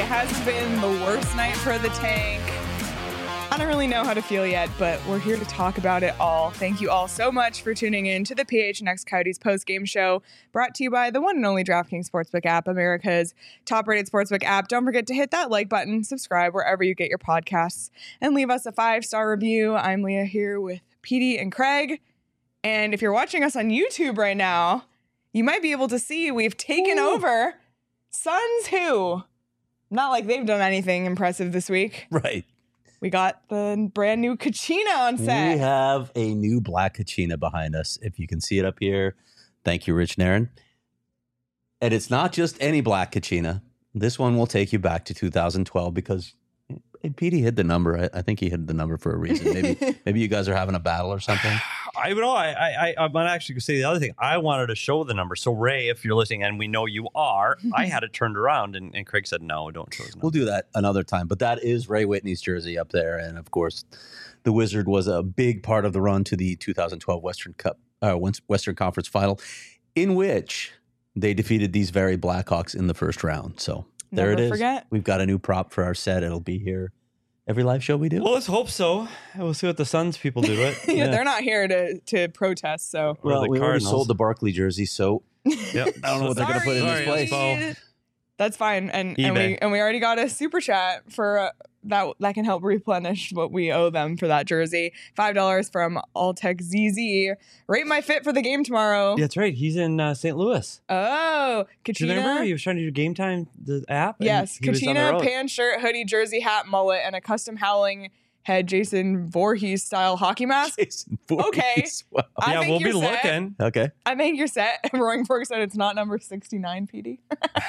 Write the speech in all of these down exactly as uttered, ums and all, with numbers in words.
has been the worst night for the tank. I don't really know how to feel yet, but we're here to talk about it all. Thank you all so much for tuning in to the P H N X Coyotes post-game show, brought to you by the one and only DraftKings Sportsbook app, America's top-rated sportsbook app. Don't forget to hit that like button, subscribe wherever you get your podcasts, and leave us a five-star review. I'm Leah here with Petey and Craig, and if you're watching us on YouTube right now, you might be able to see we've taken Ooh. over Suns Who. Not like they've done anything impressive this week. Right. We got the brand new Kachina on set. We have a new black Kachina behind us. If you can see it up here. Thank you, Rich Nairn. And it's not just any black Kachina. This one will take you back to two thousand twelve because Petey hid the number. I, I think he hid the number for a reason. Maybe maybe you guys are having a battle or something. I know. I, I, I might actually say the other thing. I wanted to show the number. So, Ray, if you're listening, and we know you are, I had it turned around, and, and Craig said, no, don't show his number. We'll do that another time. But that is Ray Whitney's jersey up there. And, of course, the Wizard was a big part of the run to the two thousand twelve Western Cup, uh, Western Conference Final, in which they defeated these very Blackhawks in the first round. So, there Never it is. Forget. We've got a new prop for our set. It'll be here every live show we do. Well, let's hope so. We'll see what the Suns people do to it. yeah, yeah, they're not here to to protest. So well, the we already Cardinals. sold the Barkley jersey, so yep. I don't know what they're going to put in this Sorry, place. Expo. That's fine, and and we and we already got a super chat for uh, that that can help replenish what we owe them for that jersey. Five dollars from Alltech Z Z. Rate my fit for the game tomorrow. Yeah, that's right. He's in uh, Saint Louis. Oh, Do you Kachina. remember he was trying to do Game Time, the app? and Yes, he was on the Kachina, road. pants, shirt, hoodie, jersey, hat, mullet, and a custom howling head Jason Voorhees style hockey mask. Jason Voorhees. Okay. Wow. I Yeah, think we'll be you're set. looking. Okay. I think you're set. Roaring Fork said it's not number sixty-nine, P D.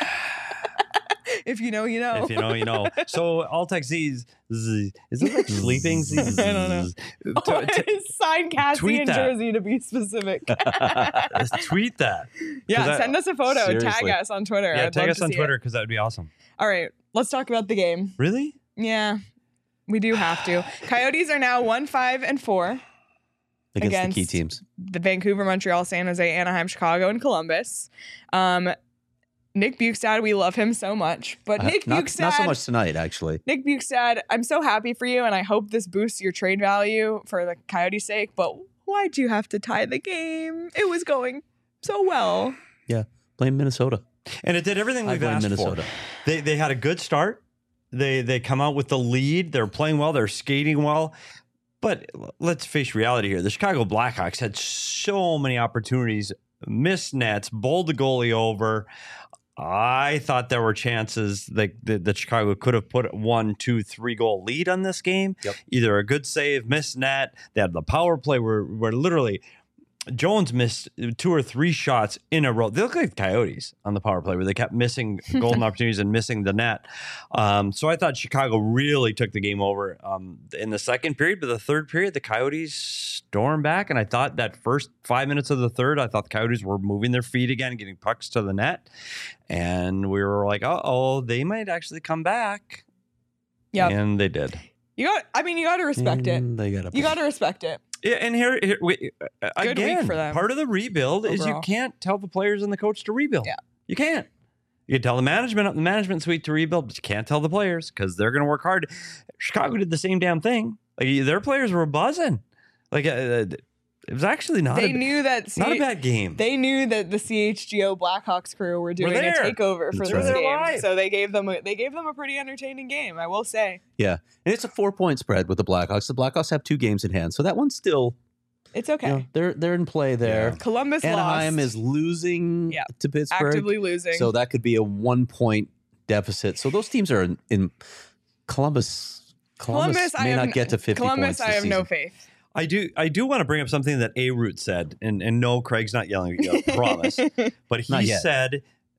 If you know, you know. If you know, you know. So Alltech Z's, Z, is it like sleeping? Z, I don't know. To- to- Sign Cassie tweet in that. Jersey to be specific. tweet that. yeah, 'Cause I- send us a photo. Seriously. Tag us on Twitter. Yeah, I'd tag love us to on see Twitter it. because that would be awesome. All right, let's talk about the game. Really? Yeah, we do have to. Coyotes are now one, five, and four Against, Against- the key teams. the Vancouver, Montreal, San Jose, Anaheim, Chicago, and Columbus. Um, Nick Bukestad, we love him so much, but Uh, Nick not, Bukestad, not so much tonight, actually. Nick Bukestad, I'm so happy for you, and I hope this boosts your trade value for the Coyotes' sake. But why'd you have to tie the game? It was going so well. Yeah. Blame Minnesota. And it did everything I we've blame asked Minnesota. for. They they had a good start. They they come out with the lead. They're playing well. They're skating well. But l- let's face reality here. The Chicago Blackhawks had so many opportunities, missed nets, bowled the goalie over. I thought there were chances that, that, that Chicago could have put one, two, three goal lead on this game. Yep. Either a good save, missed net. They had the power play where, where literally Jones missed two or three shots in a row. They look like Coyotes on the power play where they kept missing golden opportunities and missing the net. Um, so I thought Chicago really took the game over um, in the second period. But the third period, the Coyotes stormed back. And I thought that first five minutes of the third, I thought the Coyotes were moving their feet again, getting pucks to the net. And we were like, uh-oh, they might actually come back. Yeah, And they did. you got. I mean, you got to respect it. Mm, They got You got to respect it. Yeah, and here, here we, uh, Good week again, for them. part of the rebuild is you Overall. can't tell the players and the coach to rebuild. Yeah. You can't. You can tell the management, the management suite to rebuild, but you can't tell the players because they're going to work hard. Chicago did the same damn thing. Like their players were buzzing. Like uh, it was actually not. They a, knew that. C- not a bad game. They knew that the C H G O Blackhawks crew were doing a there. takeover for That's this right. They're game, live. so they gave them a, they gave them a pretty entertaining game. I will say Yeah. And it's a four point spread with the Blackhawks. The Blackhawks have two games in hand. So that one's still, it's okay. you know, they're, they're in play there. Yeah. Columbus Anaheim lost, is losing Yeah. to Pittsburgh. actively losing. So that could be a one point deficit. So those teams are in, in Columbus. Columbus, Columbus, I may have not n- get to fifty Columbus, points. I this have no season. faith. I do. I do want to bring up something that A Root said, and and no, Craig's not yelling at you. I promise. But he Not yet. said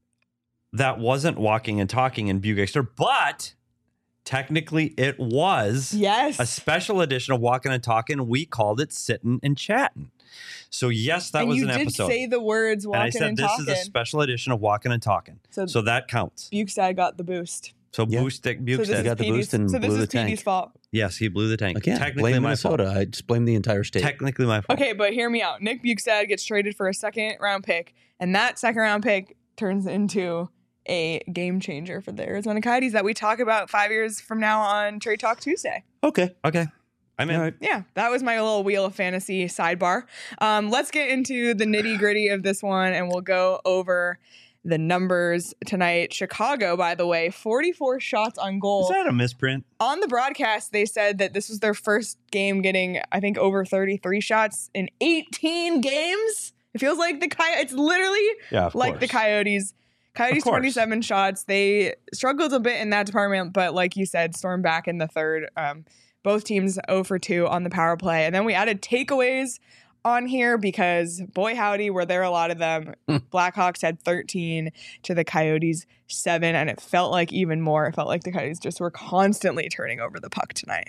that wasn't walking and talking in Bugexter, but technically it was Yes, a special edition of Walking and Talking. We called it Sitting and Chatting. So yes, that and was you an did episode. say the words and I walking said and this talking. is a special edition of Walking and Talking. So- So, that counts. Bukestad got the boost. So Yeah. Boost So Bukestad. this is got the Petey's, boost and so this blew is the tank. Petey's fault. yes, he blew the tank. Again, Technically blame my Minnesota. fault. I just blame the entire state. Technically my fault. Okay, but hear me out. Nick Bukestad gets traded for a second round pick, and that second round pick turns into a game changer for the Arizona Coyotes that we talk about five years from now on Trade Talk Tuesday. Okay. Okay. I'm in. All right. Yeah, that was my little Wheel of Fantasy sidebar. Um, let's get into the nitty gritty of this one, and we'll go over the numbers tonight. Chicago, by the way, forty-four shots on goal. Is that a misprint? On the broadcast, they said that this was their first game getting, I think, over thirty-three shots in eighteen games. It feels like the Coyotes, it's literally Yeah, of like course. the Coyotes. Coyotes, Of course. twenty-seven shots. They struggled a bit in that department, but like you said, stormed back in the third. Um, both teams zero for two on the power play. And then we added takeaways on here because, boy howdy, were there a lot of them. Blackhawks had thirteen to the Coyotes seven, and it felt like even more. It felt like the Coyotes just were constantly turning over the puck tonight.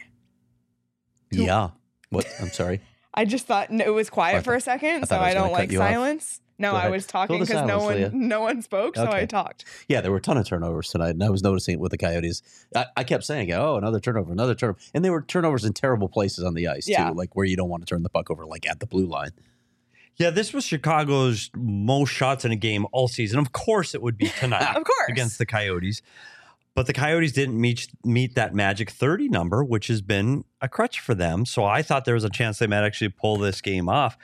Yeah. What? I'm sorry. I just thought it was quiet I for a thought- second, I so thought I was I gonna don't cut like you off. silence. No, Go I ahead. was Fill talking the because no silence, one Leah. no one spoke, so I Okay. talked. Yeah, there were a ton of turnovers tonight, and I was noticing it with the Coyotes. I, I kept saying, "Oh, another turnover, another turnover," and they were turnovers in terrible places on the ice Yeah. too, like where you don't want to turn the puck over, like at the blue line. Yeah, this was Chicago's most shots in a game all season. Of course, it would be tonight Of course. against the Coyotes. But the Coyotes didn't meet meet that magic thirty number, which has been a crutch for them. So I thought there was a chance they might actually pull this game off.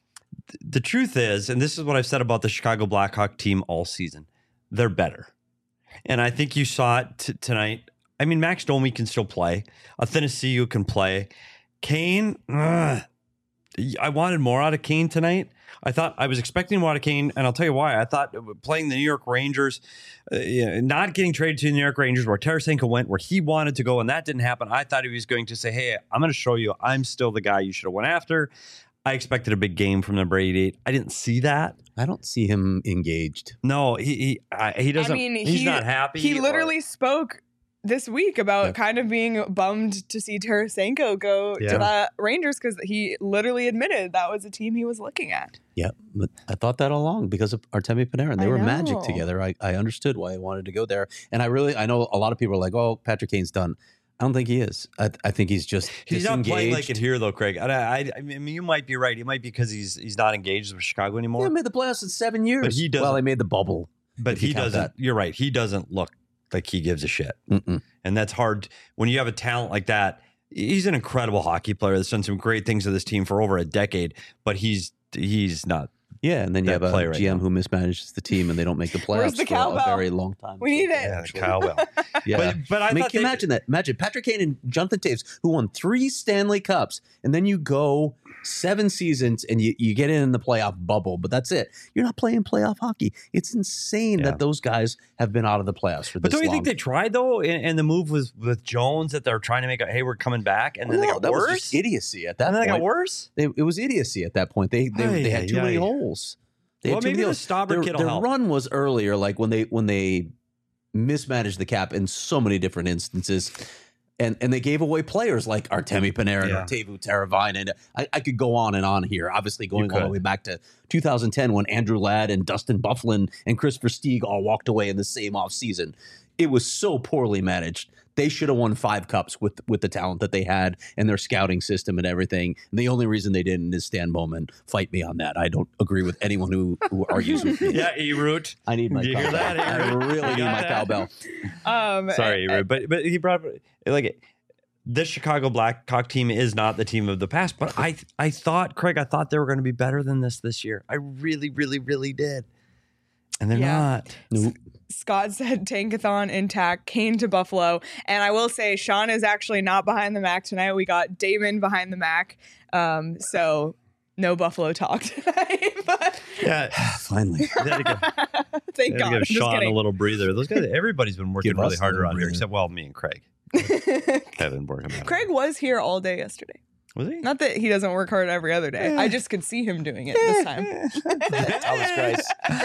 Th- The truth is, and this is what I've said about the Chicago Blackhawk team all season, they're better. And I think you saw it t- tonight. I mean, Max Domi can still play. Athanasiou can play. Kane, ugh, I wanted more out of Kane tonight. I thought I was expecting more out of Kane, and I'll tell you why. I thought playing the New York Rangers, uh, you know, not getting traded to the New York Rangers, where Tarasenko went, where he wanted to go, and that didn't happen. I thought he was going to say, "Hey, I'm going to show you, I'm still the guy you should have went after." I expected a big game from number eighty-eight. I didn't see that. I don't see him engaged. No, he he I, he doesn't. I mean, he's he, not happy. He or- literally spoke this week about Yeah. kind of being bummed to see Tarasenko go Yeah. to the Rangers because he literally admitted that was a team he was looking at. Yeah, but I thought that all along because of Artemi Panarin. They I were magic know. together. I, I understood why he wanted to go there, and I really I know a lot of people are like, "Oh, Patrick Kane's done." I don't think he is. I, I think he's just He's not playing like disengaged. it here, though, Craig. I, I, I mean, you might be right. He might be because he's he's not engaged with Chicago They anymore. haven't made the playoffs in seven years. he doesn't- Well, they made the bubble. But if you he count doesn't. that. You're right. He doesn't look like he gives a shit, Mm-mm. and that's hard when you have a talent like that. He's an incredible hockey player that's done some great things to this team for over a decade, but he's he's not. Yeah, and then you That have a play right G M now. who mismanages the team, and they don't make the Where's playoffs the for a cowbell? very long time. We need it. Yeah, Kyle Bell. Yeah. But but I, I mean, thought can you they- imagine that? Imagine Patrick Kane and Jonathan Taves, who won three Stanley Cups, and then you go seven seasons and you, you get in the playoff bubble, but that's it. You're not playing playoff hockey. It's insane Yeah. that those guys have been out of the playoffs for But this don't you long. think they tried though? And, and the move was with Jones that they're trying to make a hey, we're coming back, and then Well, they got that was worse. just idiocy at that and then they point. got worse. They, it was idiocy at that point. They they, Ay, they had too ay, many ay. holes. They Well, had too maybe many the holes. Stauber Their, kid will their help. run was earlier, like when they when they mismanaged the cap in so many different instances. And, and they gave away players like Artemi Panarin Yeah. or Teuvo Teravainen. And I, I could go on and on here, obviously going all the could. way back to two thousand ten when Andrew Ladd and Dustin Byfuglien and Chris Versteeg all walked away in the same offseason. It was so poorly managed. They should have won five cups with with the talent that they had and their scouting system and everything. And the only reason they didn't is Stan Bowman. Fight me on that. I don't agree with anyone who, who argues with me. Yeah, E-Root. I need my You hear cowbell. that, I Aaron? really You need got my that? cowbell. Um, Sorry, uh, E-Root. But but he brought like this Chicago Blackhawk team is not the team of the past. But I I thought Craig, I thought they were going to be better than this this year. I really, really, really did. And they're Yeah. not. Nope. Scott said Tankathon intact, Kane to Buffalo. And I will say, Sean is actually not behind the Mac tonight. We got Damon behind the Mac. Um, so no Buffalo talk tonight. But Yeah. Finally. They had to give, thank they had to God. I'm give just Sean a kidding. little breather. Those guys, everybody's been working Give really us a hard little around here, breather. except well, me and Craig. Haven't working hard. Craig was here all day yesterday. Was he? Not that he doesn't work hard every other day. I just could see him doing it this time. Thomas Christ. Yeah,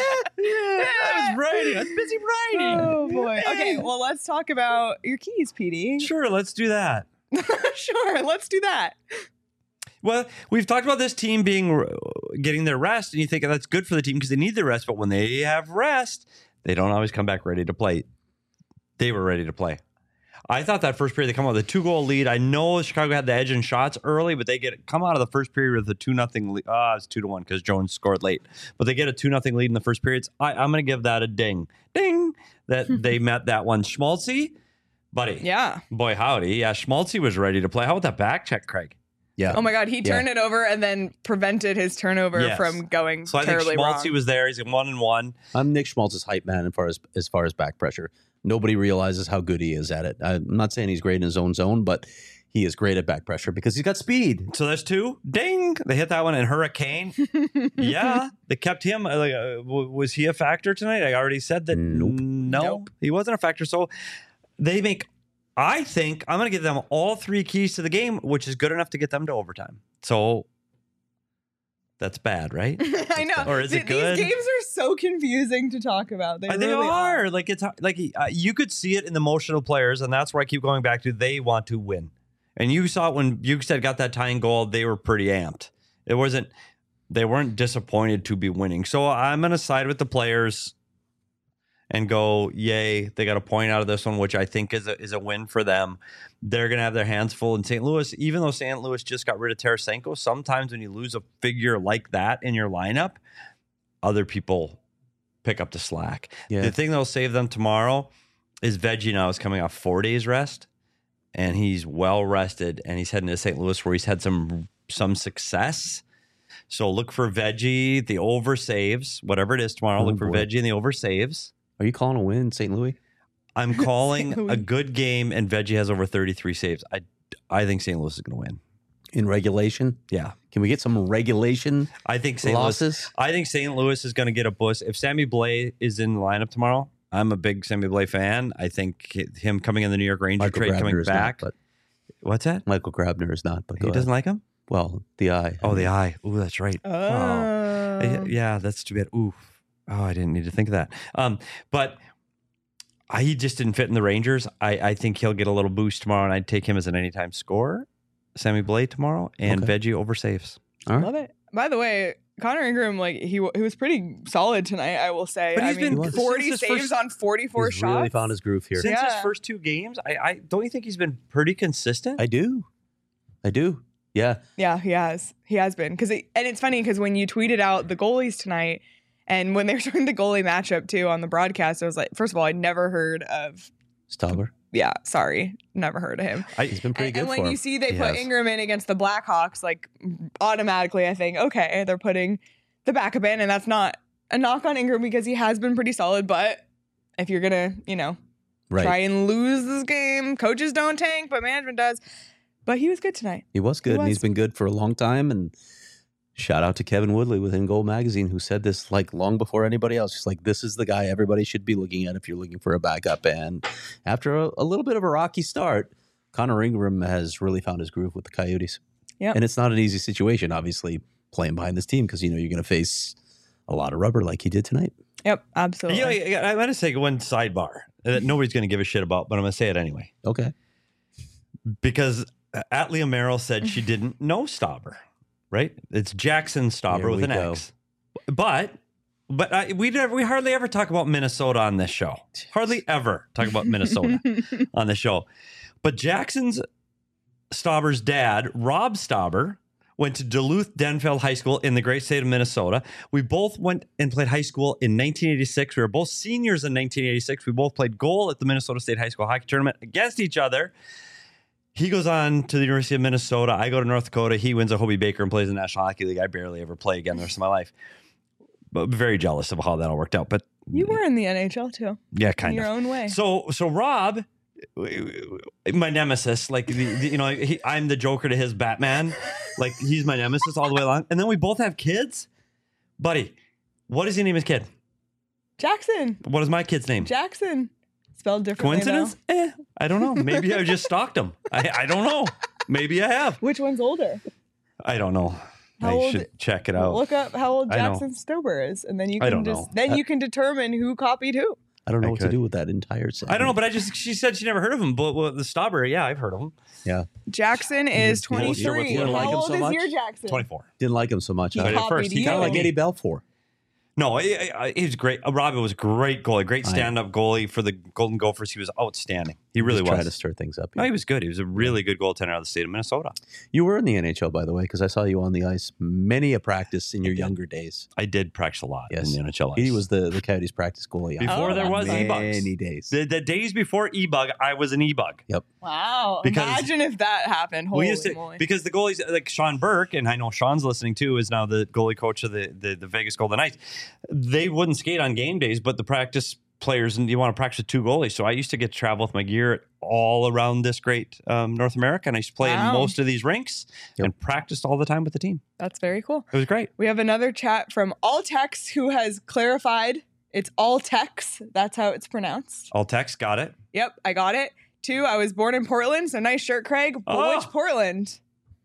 I was writing. I was busy writing. Oh boy. Okay, well let's talk about your keys, P D. Sure, let's do that. Sure, let's do that. Well, we've talked about this team being getting their rest, and you think that's good for the team because they need their rest. But when they have rest, they don't always come back ready to play. They were ready to play. I thought that first period they come out with a two goal lead. I know Chicago had the edge in shots early, but they get come out of the first period with a two nothing lead. Ah, oh, it's two to one because Jones scored late. But they get a two nothing lead in the first periods. I, I'm going to give that a ding, ding that they met that one. Schmaltzy, buddy, Yeah. boy howdy, yeah. Schmaltzy was ready to play. How about that back check, Craig? Yeah. Oh my God, he turned Yeah. it over and then prevented his turnover Yes. from going So I think terribly Schmaltzy wrong. was there. He's in one and one. I'm Nick Schmaltz's hype man as far as as far as back pressure. Nobody realizes how good he is at it. I'm not saying he's great in his own zone, but he is great at back pressure because he's got speed. So there's two. Ding! They hit that one. And Hurricane. Yeah, they kept him. uh, Like, uh, w- was he a factor tonight? I already said that. Nope. No, Nope. he wasn't a factor. So they make. I think I'm going to give them all three keys to the game, which is good enough to get them to overtime. So that's bad, right? I know. Or is it Th- good? These games are so confusing to talk about. They, Uh, They really are. Like it's like uh, you could see it in the motion of players, and that's where I keep going back to. They want to win, and you saw it when Bukestad got that tying goal. They were pretty amped. It wasn't. They weren't disappointed to be winning. So I'm going to side with the players and go, yay! They got a point out of this one, which I think is a is a win for them. They're going to have their hands full in Saint Louis, even though Saint Louis just got rid of Tarasenko. Sometimes when you lose a figure like that in your lineup, other people pick up the slack. Yeah. The thing that'll save them tomorrow is Veggie now is coming off four days rest, and he's well rested, and he's heading to Saint Louis where he's had some some success. So look for Veggie, the over saves, whatever it is tomorrow. Oh, look for boy. Veggie and the over saves. Are you calling a win, Saint Louis? I'm calling Saint Louis. a good game, and Veggie has over thirty-three saves. I I think Saint Louis is going to win. In regulation? Yeah, Can we get some regulation I think Saint Louis. losses? I think Saint Louis is going to get a boost. If Sammy Blais is in the lineup tomorrow, I'm a big Sammy Blais fan. I think him coming in the New York Ranger Michael trade Grabner coming is back. not, but What's that? Michael Grabner is not. But go He doesn't ahead. like him? Well, the eye. Oh, the eye. Ooh, that's right. Oh. Uh, Yeah, that's too bad. Ooh. Oh, I didn't need to think of that. Um, but I, he just didn't fit in the Rangers. I, I think he'll get a little boost tomorrow, and I'd take him as an anytime scorer. Sammy Blais tomorrow, and Okay. Veggie over saves. All right. Love it. By the way, Connor Ingram, like he w- he was pretty solid tonight, I will say. But I he's mean, been- forty since his saves first- on forty-four He's shots. really found his groove here. Since his Yeah. first two games, I, I don't you think he's been pretty consistent? I do. I do. Yeah. Yeah, he has. He has been. Because and it's funny because when you tweeted out the goalies tonight, and when they were showing the goalie matchup too on the broadcast, I was like, first of all, I'd never heard of. Stauber. Yeah, sorry, never heard of him. I, He's been pretty And, good and when for you him. see they He put has. Ingram in against the Blackhawks, like automatically, I think, okay, they're putting the backup in, and that's not a knock on Ingram because he has been pretty solid. But if you're gonna, you know, Right. try and lose this game, coaches don't tank, but management does. But he was good tonight. He was good, He and he's was. been good for a long time. And shout out to Kevin Woodley with In Goal Magazine, who said this like long before anybody else. Just like, this is the guy everybody should be looking at if you're looking for a backup. And after a, a little bit of a rocky start, Connor Ingram has really found his groove with the Coyotes. Yep. And it's not an easy situation, obviously, playing behind this team because you know you're going to face a lot of rubber like he did tonight. Yep, absolutely. you know, I'm going to say one sidebar that nobody's going to give a shit about, but I'm going to say it anyway. Okay. Because Atlia Merrill said she didn't know Stauber, right? It's Jackson Stauber Here with we an go. X. But but I, we never, we hardly ever talk about Minnesota on this show. Hardly ever talk about Minnesota on the show. But Jackson's Stauber's dad, Rob Stauber, went to Duluth Denfeld High School in the great state of Minnesota. We both went and played high school in nineteen eighty-six. We were both seniors in nineteen eighty-six. We both played goal at the Minnesota State High School hockey tournament against each other. He goes on to the University of Minnesota. I go to North Dakota. He wins a Hobie Baker and plays in the National Hockey League. I barely ever play again the rest of my life. But very jealous of how that all worked out. But You were in the N H L too, yeah, in kind your of. own way. So so Rob, my nemesis, like the, the, you know, he, I'm the Joker to his Batman. Like he's my nemesis all the way along. And then we both have kids. Buddy, what does he name his kid? Jackson, What is my kid's name? Jackson, spelled differently. Coincidence? though. Eh, I don't know. Maybe I just stalked him. I, I don't know. Maybe I have. Which one's older? I don't know. How I old- should check it out. Look up how old I know. Jackson Stober is, and then you I can don't just know. then Uh, you can determine who copied who. I don't know I what could. to do with that entire segment. I don't know, but I just she said she never heard of him. But well, the Stauber, yeah, I've heard of him. Yeah. Jackson is You know- you know what- twenty-three. you don't How like him old so is much? your Jackson? twenty-four. Didn't like him so much. He huh? Right at copied first, he you. Kind of kinda like Eddie Belfour. No, he, he was great. Uh, Robin was great goalie, great I- stand-up goalie for the Golden Gophers. He was outstanding. He really Just was. trying to stir things up. No, yeah. he was good. He was a really good goaltender out of the state of Minnesota. You were in the N H L, by the way, because I saw you on the ice many a practice in your did. younger days. I did practice a lot Yes. in the N H L. He ice. was the, the Coyotes practice goalie. Before Oh, there was that's e-bugs. Many days. The, the days before e-bug, I was an e-bug. Wow. Because- Imagine if that happened. Holy we used to, moly. because the goalies like Sean Burke, and I know Sean's listening too, is now the goalie coach of the, the, the Vegas Golden Knights. They wouldn't skate on game days, but the practice players, and you want to practice with two goalies. So I used to get to travel with my gear all around this great um, North America, and I used to play Wow. in most of these rinks Yep. and practiced all the time with the team. That's very cool. It was great. We have another chat from Altex who has clarified it's Altex. That's how it's pronounced. All text, got it. Yep, I got it. Two, I was born in Portland, so nice shirt, Craig. But Oh. which Portland?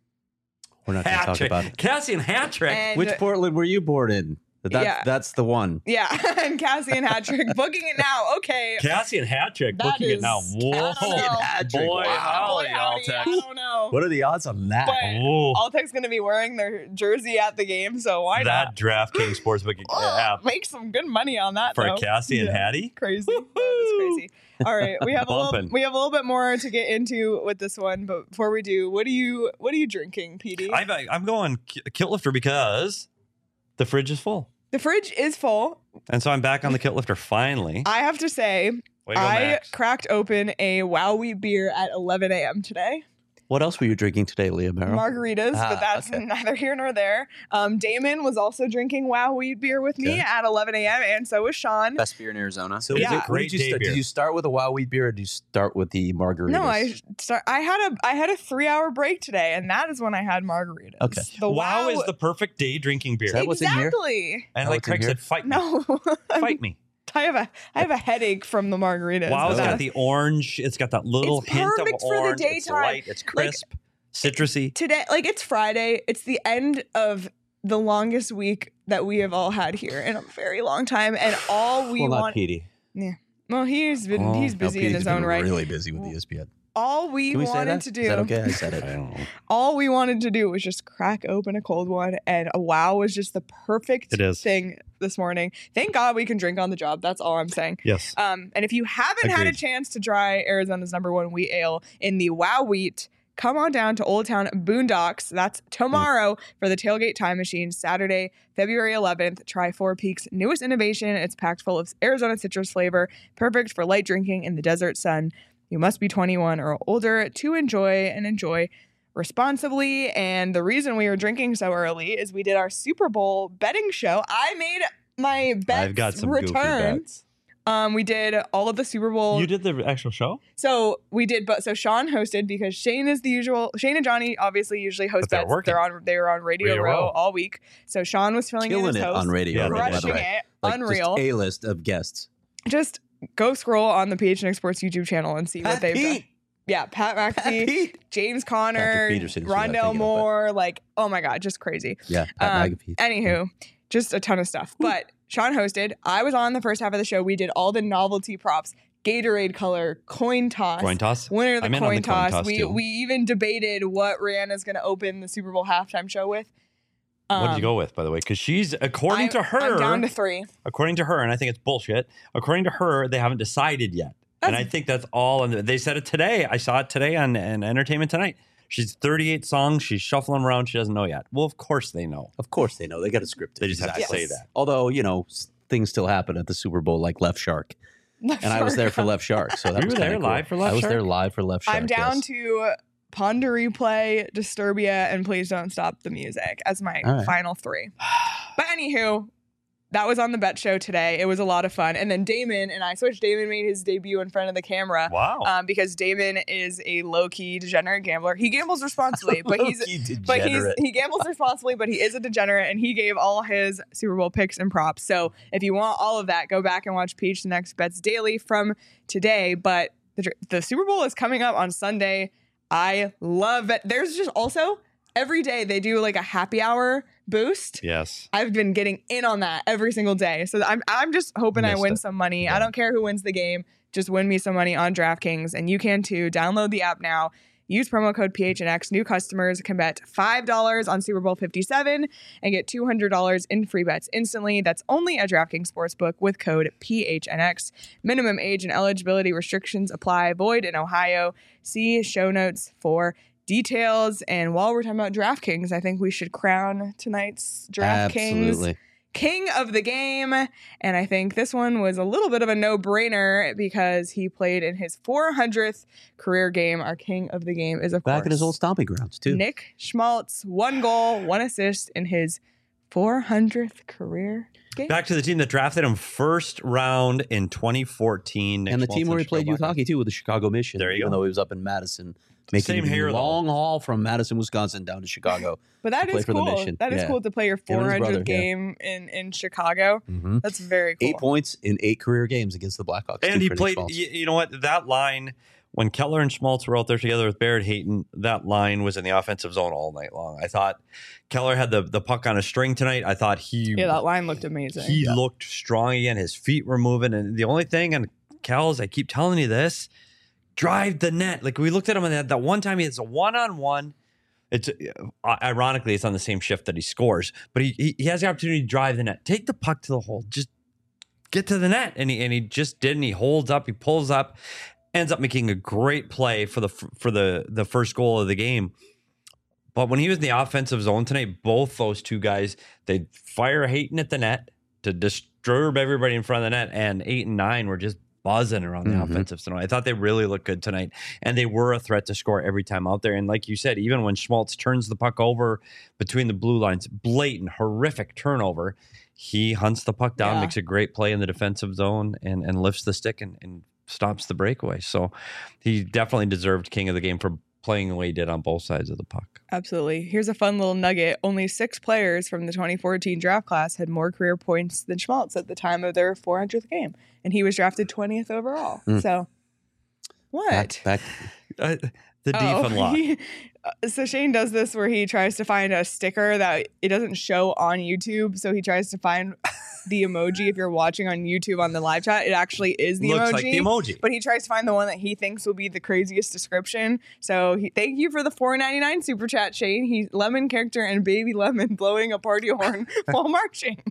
We're not going to Hat talk trick. about it. Cassian hat trick. And Which Portland were you born in? That's, Yeah. that's the one. yeah, and Cassian Hattrick booking it now. Okay. Cassian hat trick, That booking it is- now. I Whoa. don't know. Hat-trick. Boy, Wow. howdy, Boy, howdy, Altex. I don't know. What are the odds on that? But Oh, Altex going to be wearing their jersey at the game, so why that not? DraftKings Sportsbook app Make some good money on that for though. Cassie and Yeah. Hattie. Crazy. That is crazy. All right, we have a little Bumpin'. we have a little bit more to get into with this one, but before we do, what are you what are you drinking, P D? I'm, I'm going ki- Kilt Lifter because the fridge is full. The fridge is full. And so I'm back on the Kilt Lifter finally. I have to say, Way to go, I Max. cracked open a Wow Wheat beer at eleven a.m. today. What else were you drinking today, Leah Merrill? Margaritas, Ah, but that's okay. neither here nor there. Um, Damon was also drinking Wow Wheat beer with me Okay. at eleven a.m. and so was Sean. Best beer in Arizona. So Yeah. is it, Great did, you day start, beer. did you start with a Wow Wheat beer or did you start with the margaritas? No, I start. I had a I had a three hour break today, and that is when I had margaritas. Okay. The wow, Wow is the perfect day drinking beer. Is that what's in here? exactly. and that like what's in Craig here? said, fight me. No, Fight me. I have a I have a headache from the margaritas. Wow's but got that- the orange. It's got that little It's hint of perfect for the orange. It's daytime. light. It's crisp, citrusy. today, like it's Friday. It's the end of the longest week that we have all had here in a very long time, and all we well, not want. Petey. Well, he's been Oh, he's No, busy in Petey's his been own right. really busy with E S P N. All we, Can we say wanted that? to do, Is that okay? I said I it. don't know. all we wanted to do was just crack open a cold one, and a Wow was just the perfect It is. thing this morning. Thank God we can drink on the job. That's all I'm saying. Yes. Um, and if you haven't had a Agreed. chance to try Arizona's number one wheat ale in the Wow Wheat, come on down to Old Town Boondocks. That's tomorrow for the Tailgate Time Machine, Saturday, February eleventh. Try Four Peaks' newest innovation. It's packed full of Arizona citrus flavor, perfect for light drinking in the desert sun. You must be twenty-one or older to enjoy and enjoy responsibly. And the reason we were drinking so early is we did our Super Bowl betting show. I made my bets I've got some goofy return. bets. Um, we did all of the Super Bowl. You did the actual show? So we did, but so Sean hosted because Shane is the usual. Shane and Johnny obviously usually host But they're bets. working. They're on. They were on Radio, Radio Row Row. all week. So Sean was filling in Killing as it host, on radio, Yeah, Row, by the crushing way. it, Like, unreal. Just a list of guests. Just go scroll on the P H N X Sports YouTube channel and see what Pat they've done. Pete. Yeah, Pat Pat McAfee, Pete. James Conner, Patrick Peterson is who I'm Rondell thinking of, but- Moore. Like, oh my god, just crazy. Yeah, Pat Um, McAfee. Anywho, just a ton of stuff. But Sean hosted. I was on the first half of the show. We did all the novelty props, Gatorade color, coin toss, Coin toss? winner of the I'm in on coin the coin toss. toss, we too. we even debated what Rihanna's going to open the Super Bowl halftime show with. What did Um, you go with, by the way? Because she's, according I- to her, I'm down to three. according to her, and I think it's bullshit. According to her, they haven't decided yet, and That's- I think that's all. And they said it today. I saw it today on, on Entertainment Tonight. She's thirty-eight songs. She's shuffling around. She doesn't know yet. Well, of course they know. Of course they know. They got a script. They just have to Exactly. say that. Although, you know, s- things still happen at the Super Bowl, like Left Shark. And I was there for Left Shark. So that You was were there kinda cool. live for Left I was Shark? there live for Left Shark. I'm down yes. to Ponder Replay, Disturbia, and Please Don't Stop the Music as my All right. final three. But anywho, that was on the bet show today. It was a lot of fun. And then Damon and I switched. Damon made his debut in front of the camera. Wow. Um, because Damon is a low-key degenerate gambler. He gambles responsibly, but he's Low-key but he's degenerate. he gambles responsibly, but he is a degenerate, and he gave all his Super Bowl picks and props. So if you want all of that, go back and watch P H N X Bets Daily from today. But the, dr- the Super Bowl is coming up on Sunday. I love it. There's just also every day they do like a happy hour boost. yes. I've been getting in on that every single day. So I'm I'm just hoping I Missed win it. some money. Yeah. I don't care who wins the game. Just win me some money on DraftKings, and you can too. Download the app now. Use promo code P H N X. New customers can bet five dollars on Super Bowl fifty-seven and get two hundred dollars in free bets instantly. That's only at DraftKings Sportsbook with code P H N X. Minimum age and eligibility restrictions apply. Void in Ohio. See show notes for details. And while we're talking about DraftKings, I think we should crown tonight's DraftKings Absolutely. king of the game. And I think this one was a little bit of a no-brainer because he played in his four hundredth career game. Our king of the game is, of Back course, in his old stomping grounds, too. Nick Schmaltz. One goal, one assist in his four hundredth career game. Back to the team that drafted him first round in twenty fourteen. Nick and the Schmaltz team where he played Chicago youth hockey, too, with the Chicago Mission. There you even go. though he was up in Madison, making Same the hair, though. long haul from Madison, Wisconsin, down to Chicago. But that to play is for the cool. Mission. That is Yeah. cool to play your Him and four his hundredth brother, yeah. game in, in Chicago. hmm That's very cool. Eight points in eight career games against the Blackhawks. And too, he for Nick played, Schmaltz. you, you know what? That line, when Keller and Schmaltz were out there together with Barrett Hayton, that line was in the offensive zone all night long. I thought Keller had the, the puck on a string tonight. I thought he Yeah, that line looked amazing. he looked strong again. His feet were moving. And the only thing, and Kells, I keep telling you this, drive the net. Like we looked at him and that, that one time he has a one-on-one. It's uh, ironically, it's on the same shift that he scores, but he, he he has the opportunity to drive the net, take the puck to the hole, just get to the net, and he and he just didn't. He holds up, he pulls up, ends up making a great play for the for the the first goal of the game. But when he was in the offensive zone tonight, both those two guys, they fire Hayton at the net to disturb everybody in front of the net, and eight and nine were just buzzing around the Mhm. offensive zone. I thought they really looked good tonight, and they were a threat to score every time out there. And like you said, even when Schmaltz turns the puck over between the blue lines, blatant, horrific turnover, he hunts the puck down, Yeah. makes a great play in the defensive zone, and, and lifts the stick and, and stops the breakaway. So he definitely deserved king of the game for playing the way he did on both sides of the puck. Absolutely. Here's a fun little nugget. Only six players from the twenty fourteen draft class had more career points than Schmaltz at the time of their four hundredth game. And he was drafted twentieth overall. Mm. So, what? Back, back, Uh, the deep Oh, unlock. he- uh, so Shane does this where he tries to find a sticker that it doesn't show on YouTube. So he tries to find the emoji. If you're watching on YouTube on the live chat, it actually is the Looks emoji. like the emoji. But he tries to find the one that he thinks will be the craziest description. So he, thank you for the four ninety-nine super chat, Shane. He's lemon character and baby lemon blowing a party horn while marching.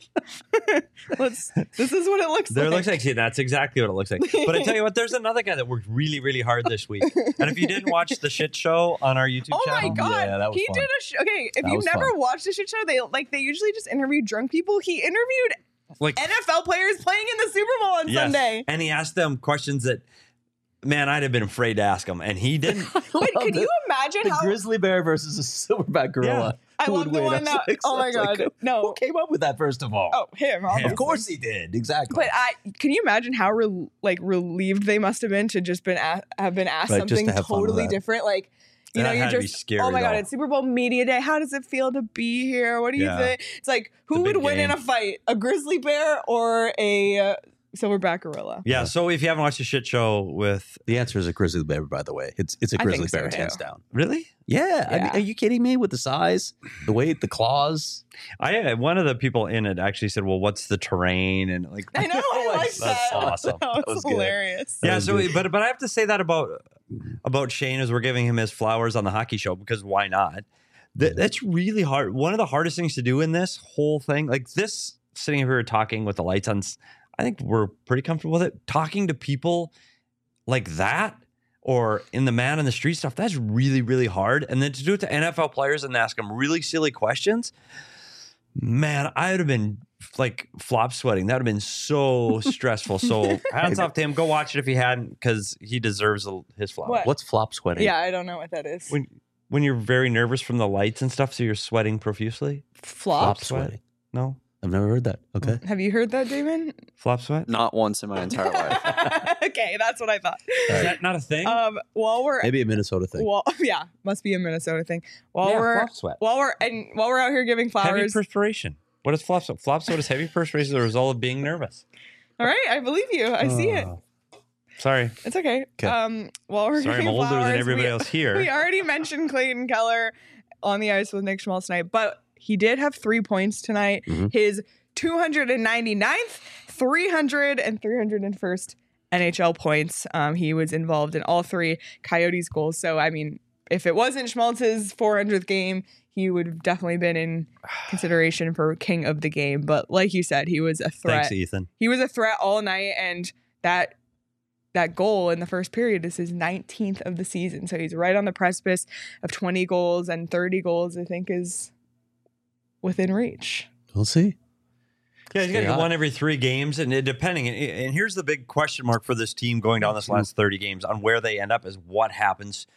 Let's. This is what it looks There like. looks like, see, that's exactly what it looks like. But I tell you what, there's another guy that worked really, really hard this week. And if you didn't watch the shit show on our YouTube Oh channel, my god! Yeah, that was he fun. did a sh- okay. If That you've was never fun. watched a shit show, they like they usually just interview drunk people. He interviewed like N F L players playing in the Super Bowl on yes. Sunday. And he asked them questions that, man, I'd have been afraid to ask him, and he didn't. Wait, can the- you imagine the how? grizzly bear versus a silverback gorilla. I Who love would the win? one I was that. like- Oh I my was like, god! Who No. came up with that, first of all? Oh, him. obviously. Of course he did. Exactly. But I can you imagine how re- like relieved they must have been to just been a- have been asked Right, just something to have fun with totally that. different, like. You That know, you're had to be just, scary, oh my God, though. it's Super Bowl media day. How does it feel to be here? What do you Yeah. think? It's like, who It's a would big win in game. a fight? A grizzly bear or a uh, silverback gorilla? Yeah, so if you haven't watched the shit show with, the answer is a grizzly bear, by the way. It's it's a I grizzly think so, bear, too. hands down. really? Yeah. I mean, Yeah. are you kidding me with the size, the weight, the claws? I one of the people in it actually said, "Well, what's the terrain?" And like, I know, I like That's that. awesome. That was, That was good. hilarious. yeah. was So, good. but but I have to say that about about Shane as we're giving him his flowers on the hockey show, because why not? That, that's really hard. One of the hardest things to do in this whole thing, like this, sitting here talking with the lights on, I think we're pretty comfortable with it. Talking to people like that, or in the man in the street stuff, that's really, really hard. And then to do it to N F L players and ask them really silly questions, man, I would have been like flop sweating. That would have been so stressful. So hats off to him. Go watch it if you hadn't, because he deserves a- his flowers. What? What's flop sweating? Yeah, I don't know what that is. When when you're very nervous from the lights and stuff, so you're sweating profusely. Flop? Flop sweating. No, I've never heard that. Okay. Have you heard that, Damon? flop sweat. Not once in my entire life. Okay, that's what I thought. Is that not a thing? Um, while we're Maybe a Minnesota thing. well, yeah, must be a Minnesota thing. While yeah, we're flop sweat. while we're and while we're out here giving Heavy flowers. perspiration. What is flop sweat? Flop sweat is heavy perspiration as a result of being nervous. All right, I believe you. I see it. Oh. Sorry. It's okay. 'Kay. Um, while we're Sorry, I'm giving older than flowers, everybody we, else here. We already mentioned Clayton Keller on the ice with Nick Schmaltz tonight, but he did have three points tonight. Mhm. His two hundred ninety-ninth, three hundred, and three hundred first N H L points. Um, he was involved in all three Coyotes goals. So, I mean, if it wasn't Schmaltz's four hundredth game, he would have definitely been in consideration for king of the game. But like you said, he was a threat. Thanks, Ethan. He was a threat all night, and that that goal in the first period is his nineteenth of the season. So he's right on the precipice of twenty goals, and thirty goals, I think, is within reach. We'll see. Yeah, he's got to Yeah. get one every three games, and it, depending. And, and here's the big question mark for this team going down this last thirty games on where they end up is what happens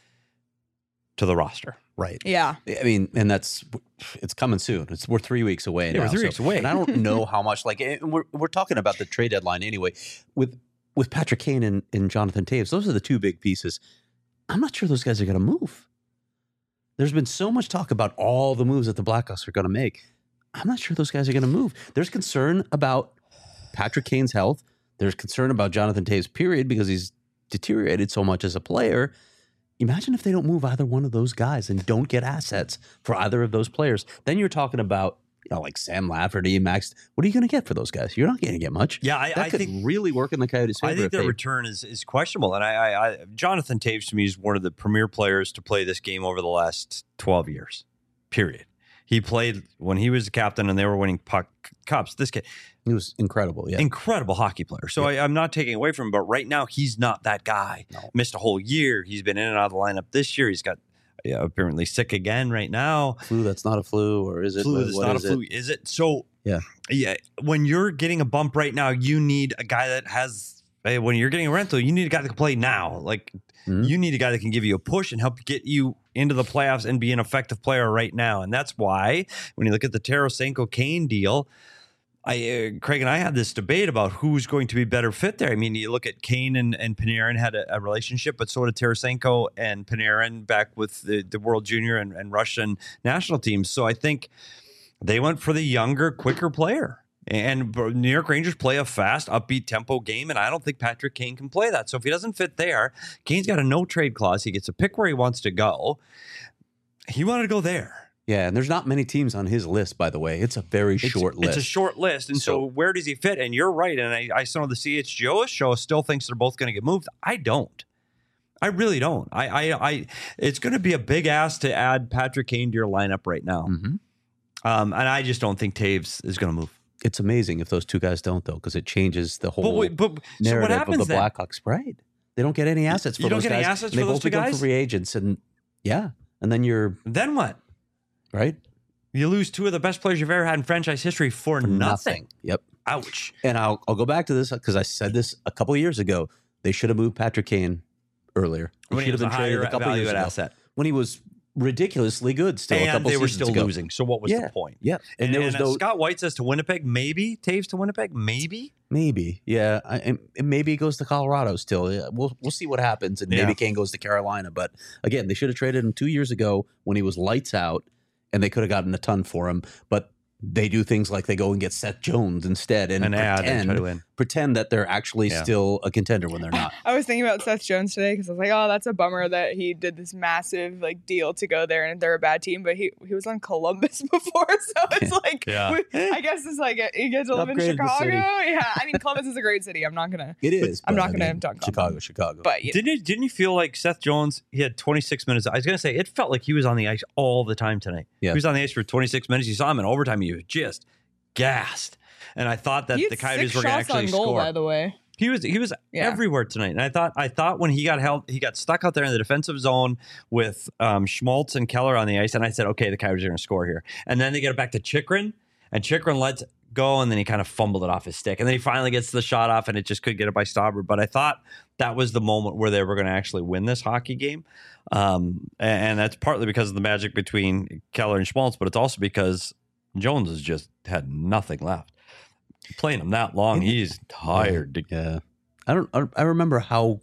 to the roster. Right. Yeah. I mean, and that's it's coming soon. It's we're three weeks away. Yeah, now, we're three so- weeks away. and I don't know how much. Like and we're we're talking about the trade deadline anyway. With with Patrick Kane and, and Jonathan Toews, those are the two big pieces. I'm not sure those guys are going to move. There's been so much talk about all the moves that the Blackhawks are going to make. I'm not sure those guys are going to move. There's concern about Patrick Kane's health. There's concern about Jonathan Toews, period, because he's deteriorated so much as a player. Imagine if they don't move either one of those guys and don't get assets for either of those players. Then you're talking about, you know, like Sam Lafferty and Max. What are you going to get for those guys? You're not going to get much. Yeah, I, that I could think really work in the Coyotes' favor. I think if their they- return is, is questionable. And I, I, I Jonathan Toews to me is one of the premier players to play this game over the last twelve years, period. He played when he was the captain and they were winning puck cups. This kid, He was incredible. Yeah. incredible hockey player. So I, I'm not taking away from him, but right now he's not that guy. No. Missed a whole year. He's been in and out of the lineup this year. He's got yeah, apparently sick again right now. Flu that's not a flu, or is it? Flu What- that's what not a is it? flu. Is it? So Yeah. yeah. When you're getting a bump right now, you need a guy that has. Hey, when you're getting a rental, you need a guy that can play now. Like Mhm. you need a guy that can give you a push and help get you into the playoffs and be an effective player right now. And that's why when you look at the Tarasenko Kane deal, I uh, Craig and I had this debate about who's going to be better fit there. I mean, you look at Kane and, and Panarin had a, a relationship, but so did Tarasenko and Panarin back with the, the World Junior and, and Russian national teams. So I think they went for the younger, quicker player. And New York Rangers play a fast, upbeat tempo game, and I don't think Patrick Kane can play that. So if he doesn't fit there, Kane's got a no trade clause. He gets to pick where he wants to go. He wanted to go there. Yeah, and there's not many teams on his list, by the way. It's a very It's, short list. It's a short list. And so, So- where does he fit? And you're right. And I, I saw the C H G O show still thinks they're both going to get moved. I don't. I really don't. I, I, I it's going to be a big ask to add Patrick Kane to your lineup right now. Mhm. Um, and I just don't think Taves is going to move. It's amazing if those two guys don't, though, because it changes the whole But, wait, but so narrative what happens of the then? Blackhawks. Right? They don't get any assets for You don't those get any guys. assets and for they those both two become guys? free agents, and yeah, and then you're Then what? right You lose two of the best players you've ever had in franchise history for, for nothing. Yep. Ouch. And I'll I'll go back to this because I said this a couple of years ago. They should have moved Patrick Kane earlier. He When he should was have a been traded higher a couple of value years ago asset. when he was ridiculously good. Still, a And couple they were seasons still ago. losing. So what was Yeah. the point? Yeah, and, there was and, uh, no Scott White says to Winnipeg, maybe Taves to Winnipeg, maybe. maybe. Yeah, I, and and maybe it goes to Colorado still. Yeah, we'll we'll see what happens, and Yeah. maybe Kane goes to Carolina. But again, they should have traded him two years ago when he was lights out, and they could have gotten a ton for him. But they do things like they go and get Seth Jones instead, and An ad and pretend try to win. pretend that they're actually Yeah. still a contender when they're not. I was thinking about Seth Jones today because I was like, oh, that's a bummer that he did this massive like deal to go there and they're a bad team, but he he was on Columbus before, so it's like, Yeah. we- I guess it's like you get to live in Upgraded the Chicago. city. Yeah, I mean Columbus is a great city. I'm not gonna, It is. I'm but, not I gonna mean, dunk on Chicago, them. Chicago. but you know, Didn't you, didn't you feel like Seth Jones, he had twenty-six minutes. I was going to say, it felt like he was on the ice all the time tonight. Yeah. He was on the ice for twenty-six minutes. You saw him in overtime. He was just gassed. And I thought that he had the Coyotes six were going to shots on actually goal, score. by the way. He was he was Yeah. everywhere tonight, and I thought I thought when he got held, he got stuck out there in the defensive zone with um, Schmaltz and Keller on the ice, and I said, okay, the Coyotes are going to score here. And then they get it back to Chikrin, and Chikrin lets go, and then he kind of fumbled it off his stick, and then he finally gets the shot off, and it just couldn't get it by Stauber. But I thought that was the moment where they were going to actually win this hockey game, um, and, and that's partly because of the magic between Keller and Schmaltz, but it's also because Jones has just had nothing left. Playing him that long, he's tired. Yeah, I don't. I I remember how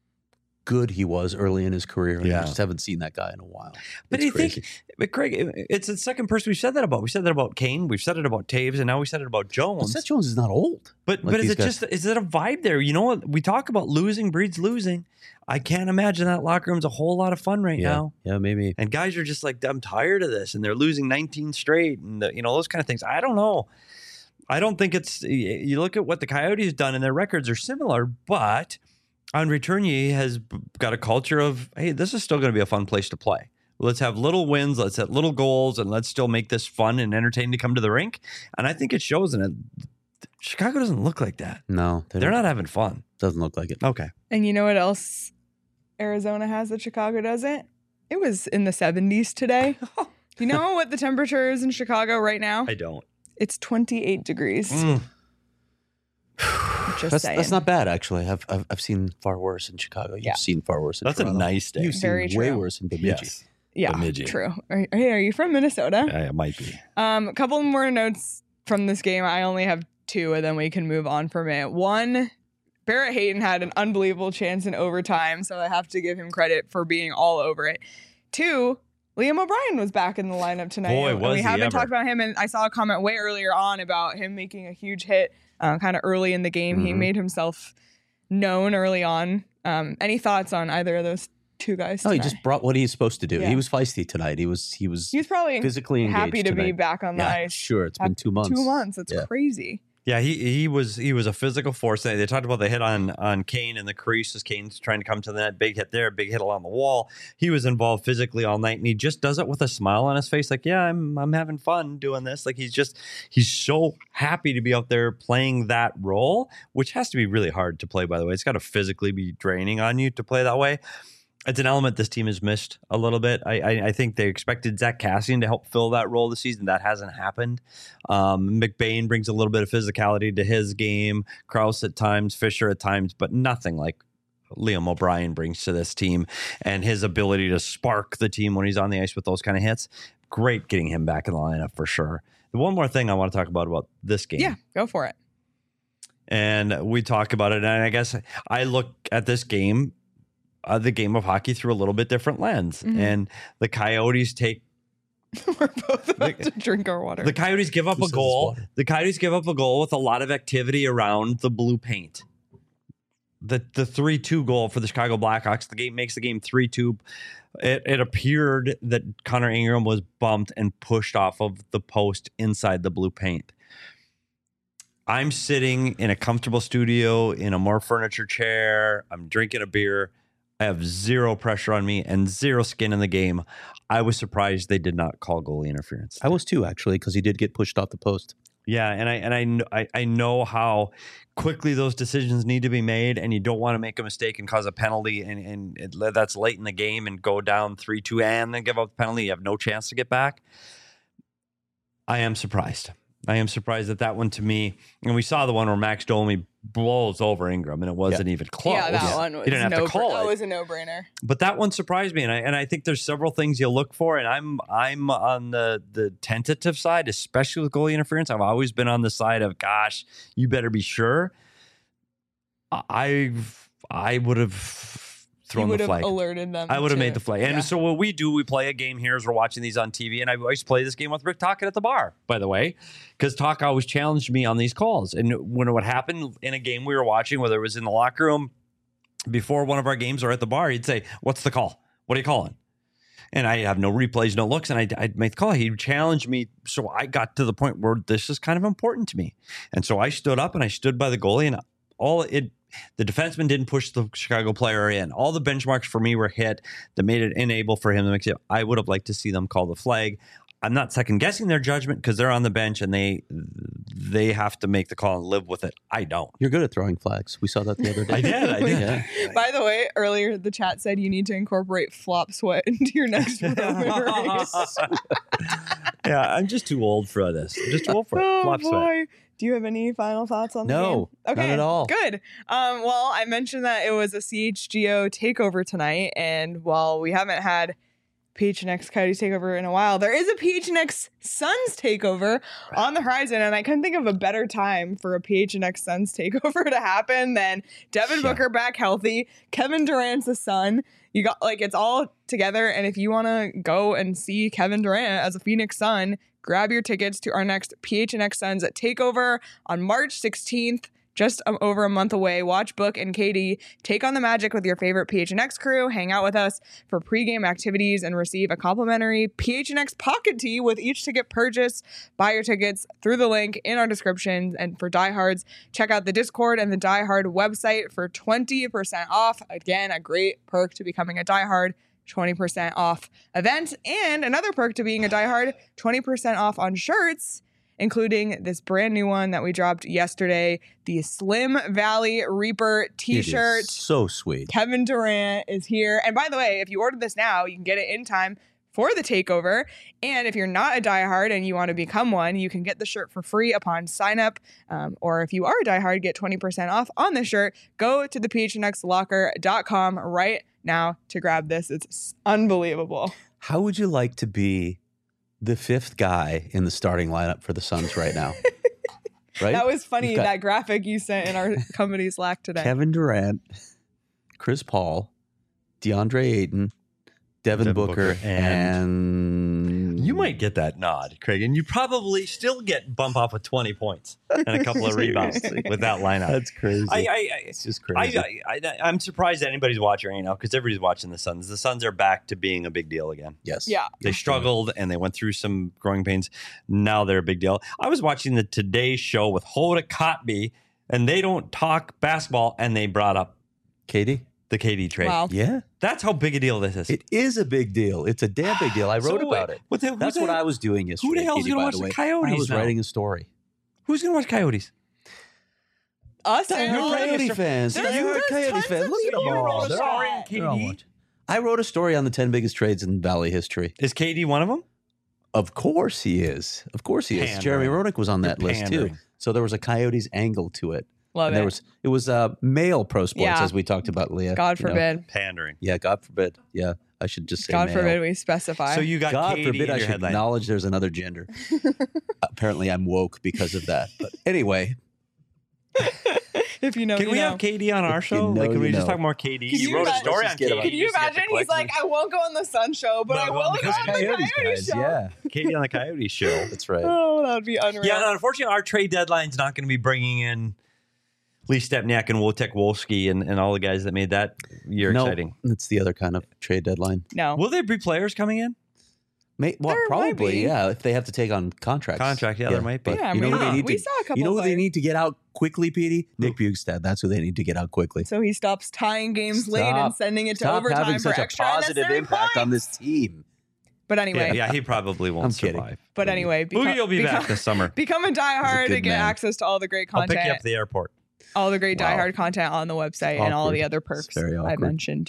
good he was early in his career. And Yeah. I just haven't seen that guy in a while. But It's I think, crazy. but Craig, it's the second person we've said that about. We said that about Kane. We've said it about Taves, and now we said it about Well, Jones. Seth Jones is not old. But like but is these it guys. just is it a vibe there? You know what? We talk about losing breeds losing. I can't imagine that locker room's a whole lot of fun right Yeah, now. yeah, maybe. And guys are just like, I'm tired of this, and they're losing nineteen straight, and the, you know those kind of things. I don't know. I don't think it's. You look at what the Coyotes done, and their records are similar, but Andre Tournier has got a culture of, hey, this is still going to be a fun place to play. Let's have little wins, let's have little goals, and let's still make this fun and entertaining to come to the rink. And I think it shows in it. Chicago doesn't look like that. No, they they're not having fun. Doesn't look like it. Okay. And you know what else Arizona has that Chicago doesn't? It was in the seventies today. You know what the temperature is in Chicago right now? I don't. It's twenty-eight degrees. Mm. Just That's, saying. that's not bad, actually. I've, I've I've seen far worse in Chicago. You've Yeah. seen far worse in That's Toronto. a nice day. You've Very seen way true. worse in Bemidji. Yes. Yeah, Bemidji. true. Are, hey, are you from Minnesota? Yeah, it might be. Um, a couple more notes from this game. I only have two, and then we can move on from it. One, Barrett Hayton had an unbelievable chance in overtime, so I have to give him credit for being all over it. Two, Liam O'Brien was back in the lineup tonight. Boy, and was we he haven't ever. talked about him, and I saw a comment way earlier on about him making a huge hit uh, kind of early in the game. He Mhm. made himself known early on. Um, any thoughts on either of those two guys No, he tonight? just brought what he's supposed to do. Yeah. He was feisty tonight. He was he was He was probably physically engaged happy to tonight. be back on the Yeah, ice. sure. It's been Have two months. Two months. It's Yeah. crazy. Yeah, he he was he was a physical force. They, they talked about the hit on on Kane in the crease as Kane's trying to come to the net. Big hit there, big hit along the wall. He was involved physically all night, and he just does it with a smile on his face. Like, yeah, I'm I'm having fun doing this. Like he's just he's so happy to be out there playing that role, which has to be really hard to play. By the way, it's got to physically be draining on you to play that way. It's an element this team has missed a little bit. I, I, I think they expected Zach Cassian to help fill that role this season. That hasn't happened. Um, McBain brings a little bit of physicality to his game. Krause at times, Fisher at times, but nothing like Liam O'Brien brings to this team and his ability to spark the team when he's on the ice with those kind of hits. Great getting him back in the lineup for sure. The one more thing I want to talk about about this game. Yeah, go for it. And we talk about it, and I guess I look at this game, uh, the game of hockey, through a little bit different lens. Mhm. And the Coyotes take We're both about The- to drink our water. the Coyotes give up Who a says it's goal. water? The Coyotes give up a goal with a lot of activity around the blue paint. The the three two goal for the Chicago Blackhawks. The game makes the game three two. It, it appeared that Connor Ingram was bumped and pushed off of the post inside the blue paint. I'm sitting in a comfortable studio in a more furniture chair. I'm drinking a beer. I have zero pressure on me and zero skin in the game. I was surprised they did not call goalie interference. I was too, actually, because he did get pushed off the post. Yeah, and I and I, kn- I I know how quickly those decisions need to be made, and you don't want to make a mistake and cause a penalty, and and it, that's late in the game and go down three two and then give up the penalty. You have no chance to get back. I am surprised. I am surprised at that one to me. And we saw the one where Max Domi blows over Ingram, and it wasn't even close. yeah, that one was You didn't have no to call That it. was a no-brainer. But that one surprised me, and I and I think there's several things you look for, and I'm I'm on the the tentative side, especially with goalie interference. I've always been on the side of, gosh, you better be sure. I I would have You thrown would the have flag. alerted them. I would have to- made the flag. And yeah. so what we do, we play a game here as we're watching these on T V. And I always play this game with Rick Tocchet at the bar, by the way, because Talk always challenged me on these calls. And when it would happen in a game we were watching, whether it was in the locker room before one of our games or at the bar, he'd say, "What's the call? What are you calling?" And I have no replays, no looks, and I'd, I'd make the call. He'd challenge me. So I got to the point where this is kind of important to me. And so I stood up and I stood by the goalie, and all it, the defenseman didn't push the Chicago player in. All the benchmarks for me were hit that made it unable for him to make it. I would have liked to see them call the flag. I'm not second guessing their judgment because they're on the bench and they they have to make the call and live with it. I don't. You're good at throwing flags. We saw that the other day. I did. I did. Yeah. By the way, earlier the chat said you need to incorporate flop sweat into your next Roman race. Yeah, I'm just too old for this. I'm just too old for it. Oh Flop sweat. boy. Do you have any final thoughts on the No, game? none at all. Good. Um, well, I mentioned that it was a C H G O takeover tonight, and while we haven't had P H N X Coyotes takeover in a while, there is a P H N X Suns takeover on the horizon, and I couldn't think of a better time for a P H N X Suns takeover to happen than Devin Yeah. Booker back healthy, Kevin Durant's a son. You got like it's all together, and if you want to go and see Kevin Durant as a Phoenix Sun, grab your tickets to our next P H N X Suns at Takeover on March sixteenth. just um, over a month away. Watch Book and Katie take on the Magic with your favorite P H N X crew. Hang out with us for pregame activities and receive a complimentary P H N X pocket tee with each ticket purchase. Buy your tickets through the link in our description. And for diehards, check out the Discord and the diehard website for twenty percent off. Again, a great perk to becoming a diehard. twenty percent off event. And another perk to being a diehard, twenty percent off on shirts, including this brand new one that we dropped yesterday, the Slim Valley Reaper t-shirt. It is so sweet. Kevin Durant is here. And by the way, if you order this now, you can get it in time for the takeover. And if you're not a diehard and you want to become one, you can get the shirt for free upon sign up. Um, or if you are a diehard, get twenty percent off on the shirt. Go to the p h n x locker dot com right now to grab this. It's unbelievable. How would you like to be the fifth guy in the starting lineup for the Suns right now? Right? That was funny, You've got that graphic you sent in our company Slack today. Kevin Durant, Chris Paul, DeAndre Ayton, Devin, Devin Booker, Booker, and- and You might get that nod, Craig, and you probably still get bump off with twenty points and a couple of rebounds with that lineup. That's crazy. I, I, I, it's just crazy. I, I, I, I'm surprised that anybody's watching right now because everybody's watching the Suns. The Suns are back to being a big deal again. yes. Yeah. They struggled and they went through some growing pains. Now they're a big deal. I was watching the Today Show with Hoda Kotb, and they don't talk basketball, and they brought up Katie? the K D trade. Wow. Yeah. That's how big a deal this is. It is a big deal. It's a damn big deal. I wrote So, about it. what the- who That's the- what I was doing yesterday. the hell's Katie, gonna by watch the the way. Coyotes I was now? writing a story. Who's going to watch Coyotes? Us and You're all the Coyote extra- fans. There's- You're a there's Coyotes tons fan. of Look at them people all. wrote a They're story all- on they're all K D. watching. I wrote a story on the ten biggest trades in Valley history. Is K D one of them? Of course he is. Of course he is. Pandering. Jeremy Roenick was on that You're list pandering. too. So there was a Coyotes angle to it. Love and it. there was it was uh, male pro sports Yeah. as we talked about, Leah. God you know. forbid. Pandering. Yeah, God forbid. Yeah, I should just say God male. forbid we specify. So you got God Katie forbid in I your should headline. acknowledge there's another gender. Apparently I'm woke because of that. But anyway, if you know, Can you we know. have Katie on our If you show? know, like, can we you just know. talk more Katie? Can You you wrote a imagine- story Let's on just get Katie. up. Can you just get the imagine? He's clicks like, I won't go on the Sun show, but No, I go will on the go on the Coyotes Coyote guys, show. yeah, Katie on the Coyote show. that's right. Oh, that would be unreal. Yeah, no, unfortunately, our trade deadline's not going to be bringing in Lee Stepniak and Wojtek Wolski and, and all the guys that made that year no, exciting. it's the other kind of trade deadline. No. Will there be players coming in? May, well, There might probably, be. yeah. If they have to take on contracts, Contract, yeah, there might be. but Yeah, you know we who they saw- need we to. saw a couple You know who they players. need to get out quickly, Petey? Nick Bugstad. That's who they need to get out quickly. So he stops tying games late and Stop- sending it to Stop overtime having for such a extra positive unnecessary impact on points. this team. But anyway, Yeah, yeah, he probably won't I'm kidding. survive. but anyway, Boogie will be become, back this summer. become a diehard good to get man. access to all the great I'll content. pick you up at the airport. all the great Wow. diehard content on the website and all Awkward. the other It's perks very I awkward. mentioned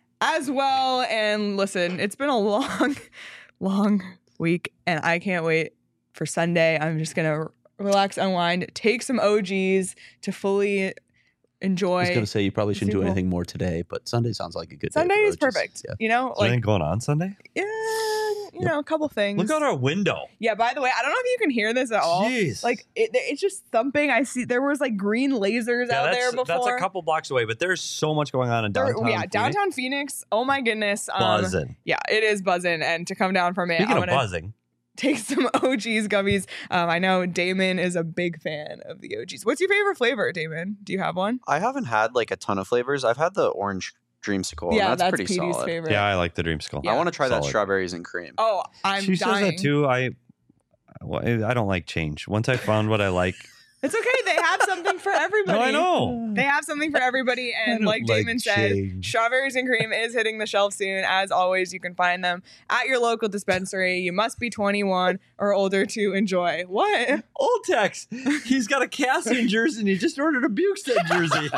as well. And listen, it's been a long, long week, and I can't wait for Sunday. I'm just gonna relax, unwind, take some O Gs to fully enjoy. I was going to say you probably shouldn't do Super Bowl. anything more today, but Sunday sounds like a good Sunday day. for is O Gs. perfect. Yeah. You know, Is there anything like going on Sunday? yeah, you know, a couple things. Look out our window. Yeah. By the way, I don't know if you can hear this at all. Jeez. Like it, it's just thumping. I see there was like green lasers yeah, out that's, there before. that's a couple blocks away, but there's so much going on in There- downtown. yeah, Phoenix. downtown Phoenix. Oh my goodness. Um, Buzzing. Yeah, it is buzzing. And to come down from it, Speaking I'm of gonna buzzing, take some O Gs gummies. Um, I know Damon is a big fan of the O Gs. What's your favorite flavor, Damon? Do you have one? I haven't had like a ton of flavors. I've had the orange dreamsicle. yeah, and that's, pretty Petey's solid. favorite. yeah, I like the Dreamsicle. Yeah. I want to try that Solid. strawberries and cream. Oh, I'm she dying. says that too. I, well, I don't like change. Once I found what I like, It's okay. They have something for everybody. no, I know. They have something for everybody. And don't like like Damon said, change. strawberries and cream is hitting the shelf soon. As always, you can find them at your local dispensary. You must be twenty-one or older to enjoy. What? Old Tex, he's got a Cassian jersey and he just ordered a Bukestad jersey.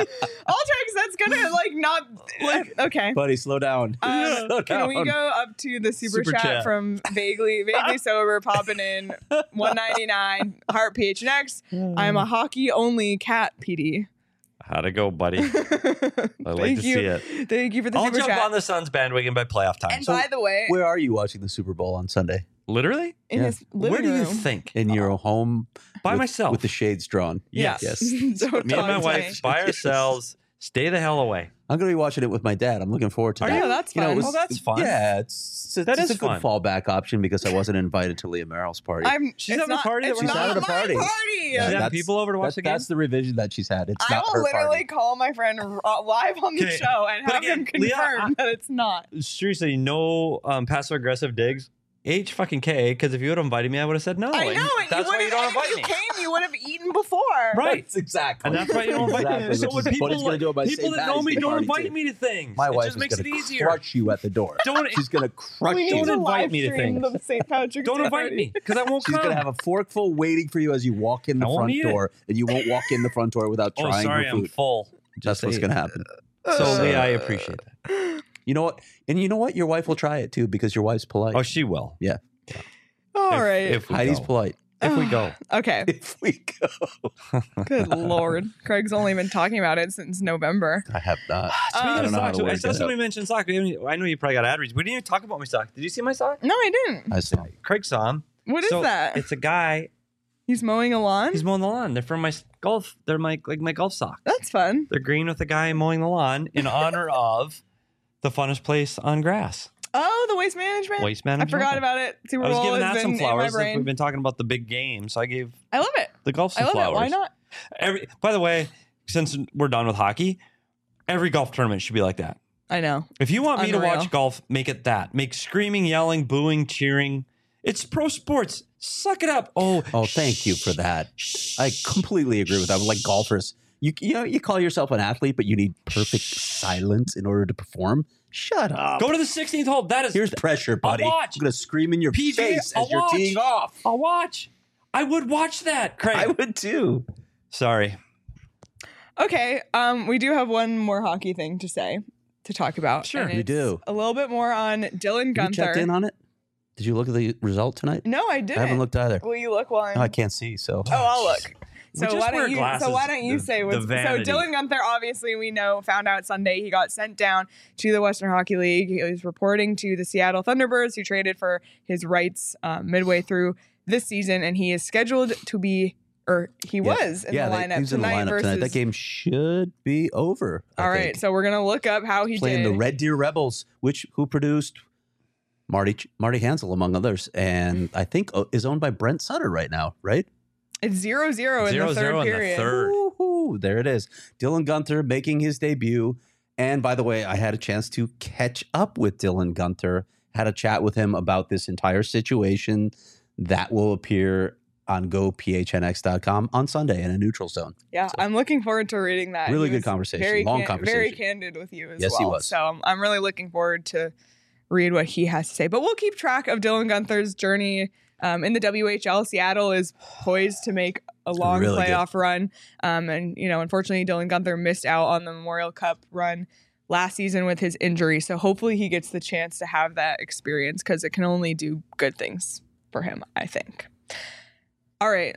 Ultrex, that's gonna like not like okay. Buddy, slow down. Um, Slow can we down. go up to the super, Super chat, chat. from vaguely vaguely sober popping in one ninety-nine heart P H N X. I'm a hockey only cat P D. How'd it go, buddy? I'd like Thank to you. see it. Thank you for the I'll super jump chat. on the Suns bandwagon by playoff time. and So, by the way, Where are you watching the Super Bowl on Sunday? literally? in yeah. his living Where do you room. think? In your home By with, myself. with the shades drawn. Yeah. Yes. Yes. Don't Me and talk my to wife me. by ourselves. Stay the hell away. I'm going to be watching it with my dad. I'm looking forward to Are that. you? Oh, that's You know, fun. it was- Oh, that's fun. Yeah, it's, it's, That it's is a good fun. fallback option because I wasn't invited to Leah Merrill's party. I'm. She's it's having a not, party that It's we're not not having a my party. party. She's having that's- people over to watch that- the game? That's the revision that she's had. It's I not will her literally party. call my friend r- live on the Okay, show and but have again, him confirm Leah, I- that it's not. Seriously, no um, passive aggressive digs. H fucking K, because if you would have invited me, I would have said no. I know, and and that's you why would you don't have. invite If me. you came, you would have eaten before. Right. That's exactly. And that's why you don't invite Exactly, me. So which when is what people, he's gonna do at my people Saint that know me Patty's Day don't party, invite too. me to things. My it wife just is makes going it to easier. crush you at the door. Don't She's going to crush We you. need Don't to invite live me to stream things. the Saint Patrick's don't Day invite party. me because I won't She's come. going to have a forkful waiting for you as you walk in the I won't front eat it. door, and you won't walk in the front door without oh, trying sorry, her I'm food. full. That's what's going to happen. So Leah, I appreciate that. You know what? And you know what? Your wife will try it too because your wife's polite. Oh, she will. All if, right. If we Heidi's go. polite. If we go. okay. If we go. Good lord. Craig's only been talking about it since November. I have not. Speaking I of don't know how socks, to I work saw that somebody out. mention socks. We haven't- I know you probably got ad reads. We didn't even talk about my sock. Did you see my sock? No, I didn't. I saw. Craig saw them. What is So, that? It's a guy. He's mowing a lawn? He's mowing the lawn. They're from my s- golf. They're my like my golf socks. That's fun. They're green with a guy mowing the lawn in honor of the funnest place on grass, Oh, the waste management. Waste I Management. forgot about it. Super I was Bowl giving has that some been flowers. in my Since brain. we've been talking about the big game, so I gave I love it. the golf I some love flowers. it. Why not? Every, by the way, since we're done with hockey, every golf tournament should be like that. I know. If you want me to Unreal. watch golf, make it that. Make screaming, yelling, booing, cheering. It's pro sports. Suck it up. Oh, Oh, thank you for that. I completely agree with that. Like golfers, you you know you call yourself an athlete, but you need perfect silence in order to perform. Shut up. Go to the sixteenth hole. That is. Here's pressure, buddy. watch. I'm gonna scream in your P G A, face I'll as you're watch. teeing off. I'll watch. I would watch that, Craig. I would too. Sorry. Okay. Um, we do have one more hockey thing to say, to talk about. Sure. and We it's do. A little bit more on Dylan You Gunther. checked in on it? Did you look at the result tonight? No, I didn't. I haven't looked either. Will you look while I'm... No, I can't see. So Oh, I'll look. We So just why wear don't you? glasses, So why don't you the- say the what's so? vanity. Dylan Gunther, obviously, we know, found out Sunday he got sent down to the Western Hockey League. He was reporting to the Seattle Thunderbirds, who traded for his rights um, midway through this season, and he is scheduled to be, or he Yeah. was in yeah, the they- lineup he's in the tonight lineup versus. tonight. That game should be over. I All right, think. so we're gonna look up how he Playing did. the Red Deer Rebels, which who produced Marty Marty Hansel among others, and I think uh, is owned by Brent Sutter right now. Right? It's zero zero in Zero, the third zero in the period. third. Woo-hoo, there it is. Dylan Gunther making his debut. And by the way, I had a chance to catch up with Dylan Gunther, had a chat with him about this entire situation that will appear on go p h n x dot com on Sunday in a neutral zone. Yeah, So- I'm looking forward to reading that. Really He good was conversation, Very long Very conversation. candid with you as Yes, well. he was. So I'm, I'm really looking forward to read what he has to say. But we'll keep track of Dylan Gunther's journey um, in the W H L. Seattle is poised to make a long Really good. playoff run. Um, and, you know, unfortunately, Dylan Gunther missed out on the Memorial Cup run last season with his injury. So hopefully he gets the chance to have that experience because it can only do good things for him, I think. All right.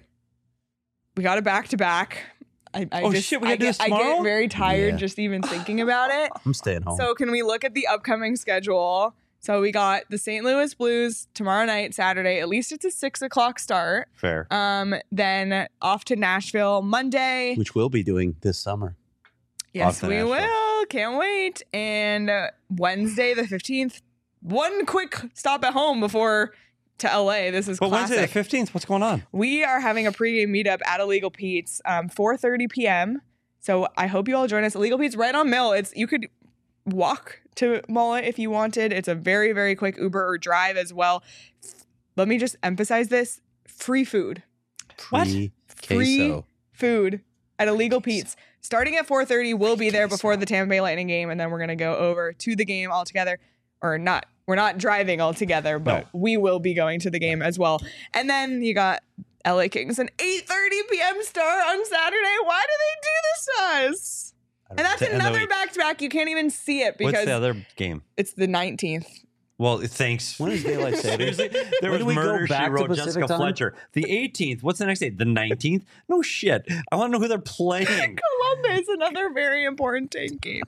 We got it back to back. I, I Oh, just, shit, we I gotta do get, this I tomorrow? get very tired Yeah. just even thinking about it. I'm staying home. So can we look at the upcoming schedule? So we got the Saint Louis Blues tomorrow night, Saturday. At least it's a six o'clock start. Fair. Um, then off to Nashville Monday. which we'll be doing this summer. Yes, off to we Nashville. will. Can't wait. And uh, Wednesday the fifteenth. One quick stop at home before to L A. This is But classic. Wednesday the fifteenth, what's going on? We are having a pregame meetup at Illegal Pete's, um, four thirty p.m. So I hope you all join us. Illegal Pete's right on Mill. It's you could walk to Mullet if you wanted. It's a very, very quick Uber or drive as well. Let me just emphasize this: free food, What? Free free queso. food at Illegal Pete's. Starting at four thirty, we'll be there before the Tampa Bay Lightning game, and then we're gonna go over to the game all together, or not. We're not driving all together, but we will be going to the game as well. And then you got L A Kings, an eight thirty p.m. start on Saturday. Why do they do this to us? And that's To end the another week. back-to-back. You can't even see it What's because the other game? it's the nineteenth. Well, thanks. When is daylight saving? Seriously, there When was do we go murder. She back to wrote Pacific Jessica time? Fletcher. The eighteenth. What's the next day? The nineteenth? No shit. I want to know who they're playing. Columbus, another very important tank game.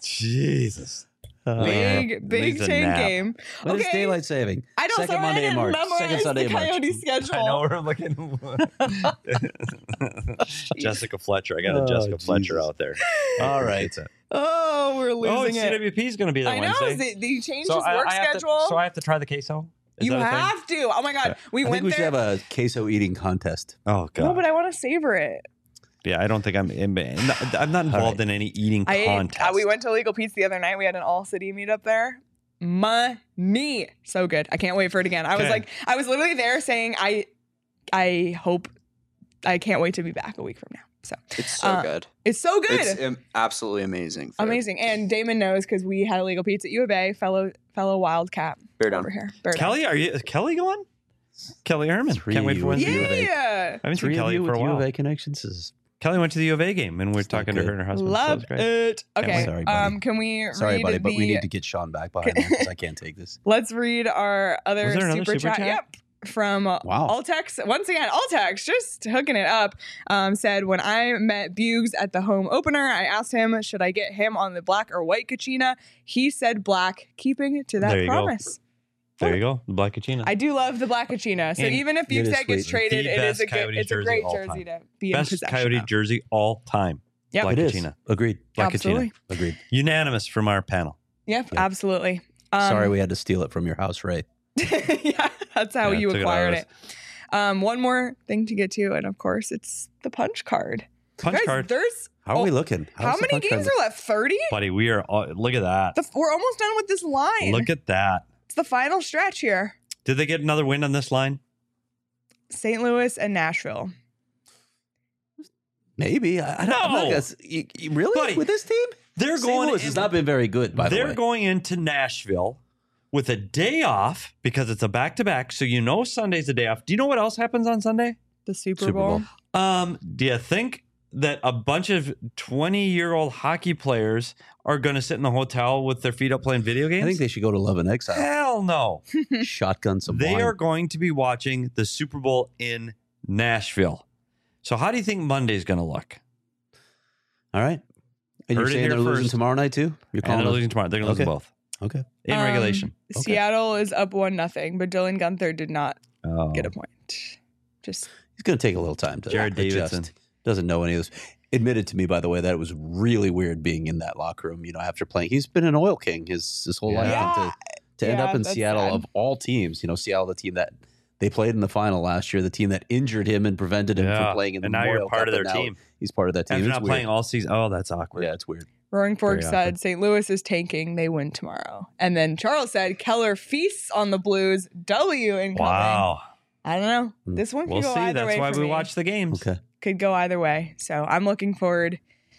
Jesus. Oh, Big, yeah. big Needs a tank nap. game. When is Okay. daylight saving? I don't Second sorry, Monday I in didn't March. memorize Second Sunday the in March. Coyote schedule. I know we're looking. Jessica Fletcher. I got a Oh, Jessica Fletcher Jesus. out there. All right. It's a- Oh, we're Oh, losing C it. W P is going to be there I know. Wednesday. They, they changed So his I, work I have to- schedule. so I have to try the queso. Is you that a thing? have to. Oh my god, we I went think we there. should have a queso eating contest. Oh god. no, but I want to savor it. Yeah, I don't think I'm. In, I'm not involved right. in any eating I ate, contest. uh, we went to Legal Pete's the other night. We had an all city meetup there. Money, so good. I can't wait for it again. I was Okay. like, I was literally there saying, I, I hope, I can't wait to be back a week from now. So It's so Uh, good. it's so good. It's um, absolutely amazing. food. Amazing. And Damon knows because we had a Legal Pete's at U of A, fellow fellow Wildcat Bear down. over here. Bear down. Kelly, are you? Is Kelly going? Kelly Herman. Three Can't wait for with Wednesday. you. Yeah. I haven't seen Three of Kelly you for with a U while. of A connections is Kelly went to the U of A game, and we're It's not talking to her good. and her husband. so Love it's great. it. Can't Okay. wait. Sorry, buddy. um, can we sorry, read buddy, but we the- need to get Sean back behind me because I can't take this. Let's read our other Was there another super, super chat. chat? Yep. From uh, Wow. Altex. Once again, Altex, just hooking it up. Um, said, when I met Buggs at the home opener, I asked him, should I get him on the black or white Kachina? He said black, keeping to that There you go. promise. There you go, the Black Kachina. I do love the black Kachina. So And even if it is Buggs gets sweet. traded, The it is best a good, Coyotes it's a jersey great all jersey time. to be in Best possession Coyote of. jersey all time. Yep. Black It is. Kachina. Agreed. Black Absolutely. Kachina. Agreed. Unanimous from our panel. Yep, Yep. absolutely. Um, Sorry we had to steal it from your house, Ray. yeah, that's how Yeah, you took it out acquired of it. Um, one more thing to get to, and of course, it's the punch card. Punch Guys, card. There's How are oh, we looking? how How's the many punch games card are left? thirty? Buddy, we are. All, look at that. The, we're almost done with this line. Look at that. It's the final stretch here. Did they get another win on this line? Saint Louis and Nashville. Maybe. I, I don't I'm not No. gonna s- you- you- really Buddy, with this team. They're Saint going. Louis has not been very good. By the they're way, going into Nashville with a day off because it's a back to back. So you know Sunday's a day off. Do you know what else happens on Sunday? The Super, Super Bowl. Bowl. Um, do you think that a bunch of twenty-year-old hockey players are going to sit in the hotel with their feet up playing video games? I think they should go to Love and Exile. Hell no. Shotgun some They wine. are going to be watching the Super Bowl in Nashville. So how do you think Monday's going to look? All right. And Heard you're it saying here they're losing first. tomorrow night too? You're And calling they're us- losing tomorrow. They're going to Okay. lose both Okay. in Um, regulation. Okay. Seattle is up one nothing, but Dylan Gunther did not Oh. get a point. Just He's going to take a little time to Jared adjust. Davidson. Doesn't know any of this. Admitted to me, by the way, that it was really weird being in that locker room. You know, after playing, he's been an oil king his his whole life. Yeah. And to to end Yeah, up in that's Seattle sad. of all teams, you know, Seattle, the team that they played in the final last year, the team that injured him and prevented him Yeah. from playing in the And now Memorial you're part Cup, of their and now team. He's part of that team. After It's not weird. playing all season. Oh, that's awkward. Yeah, it's weird. Roaring Fork Very said awkward. Saint Louis is tanking. They win tomorrow. And then Charles said Keller feasts on the Blues. W incoming. Wow. I don't know. Mm. This one could We'll go see. either That's way why for we me. watch the games. Okay. Could go either way. So I'm looking forward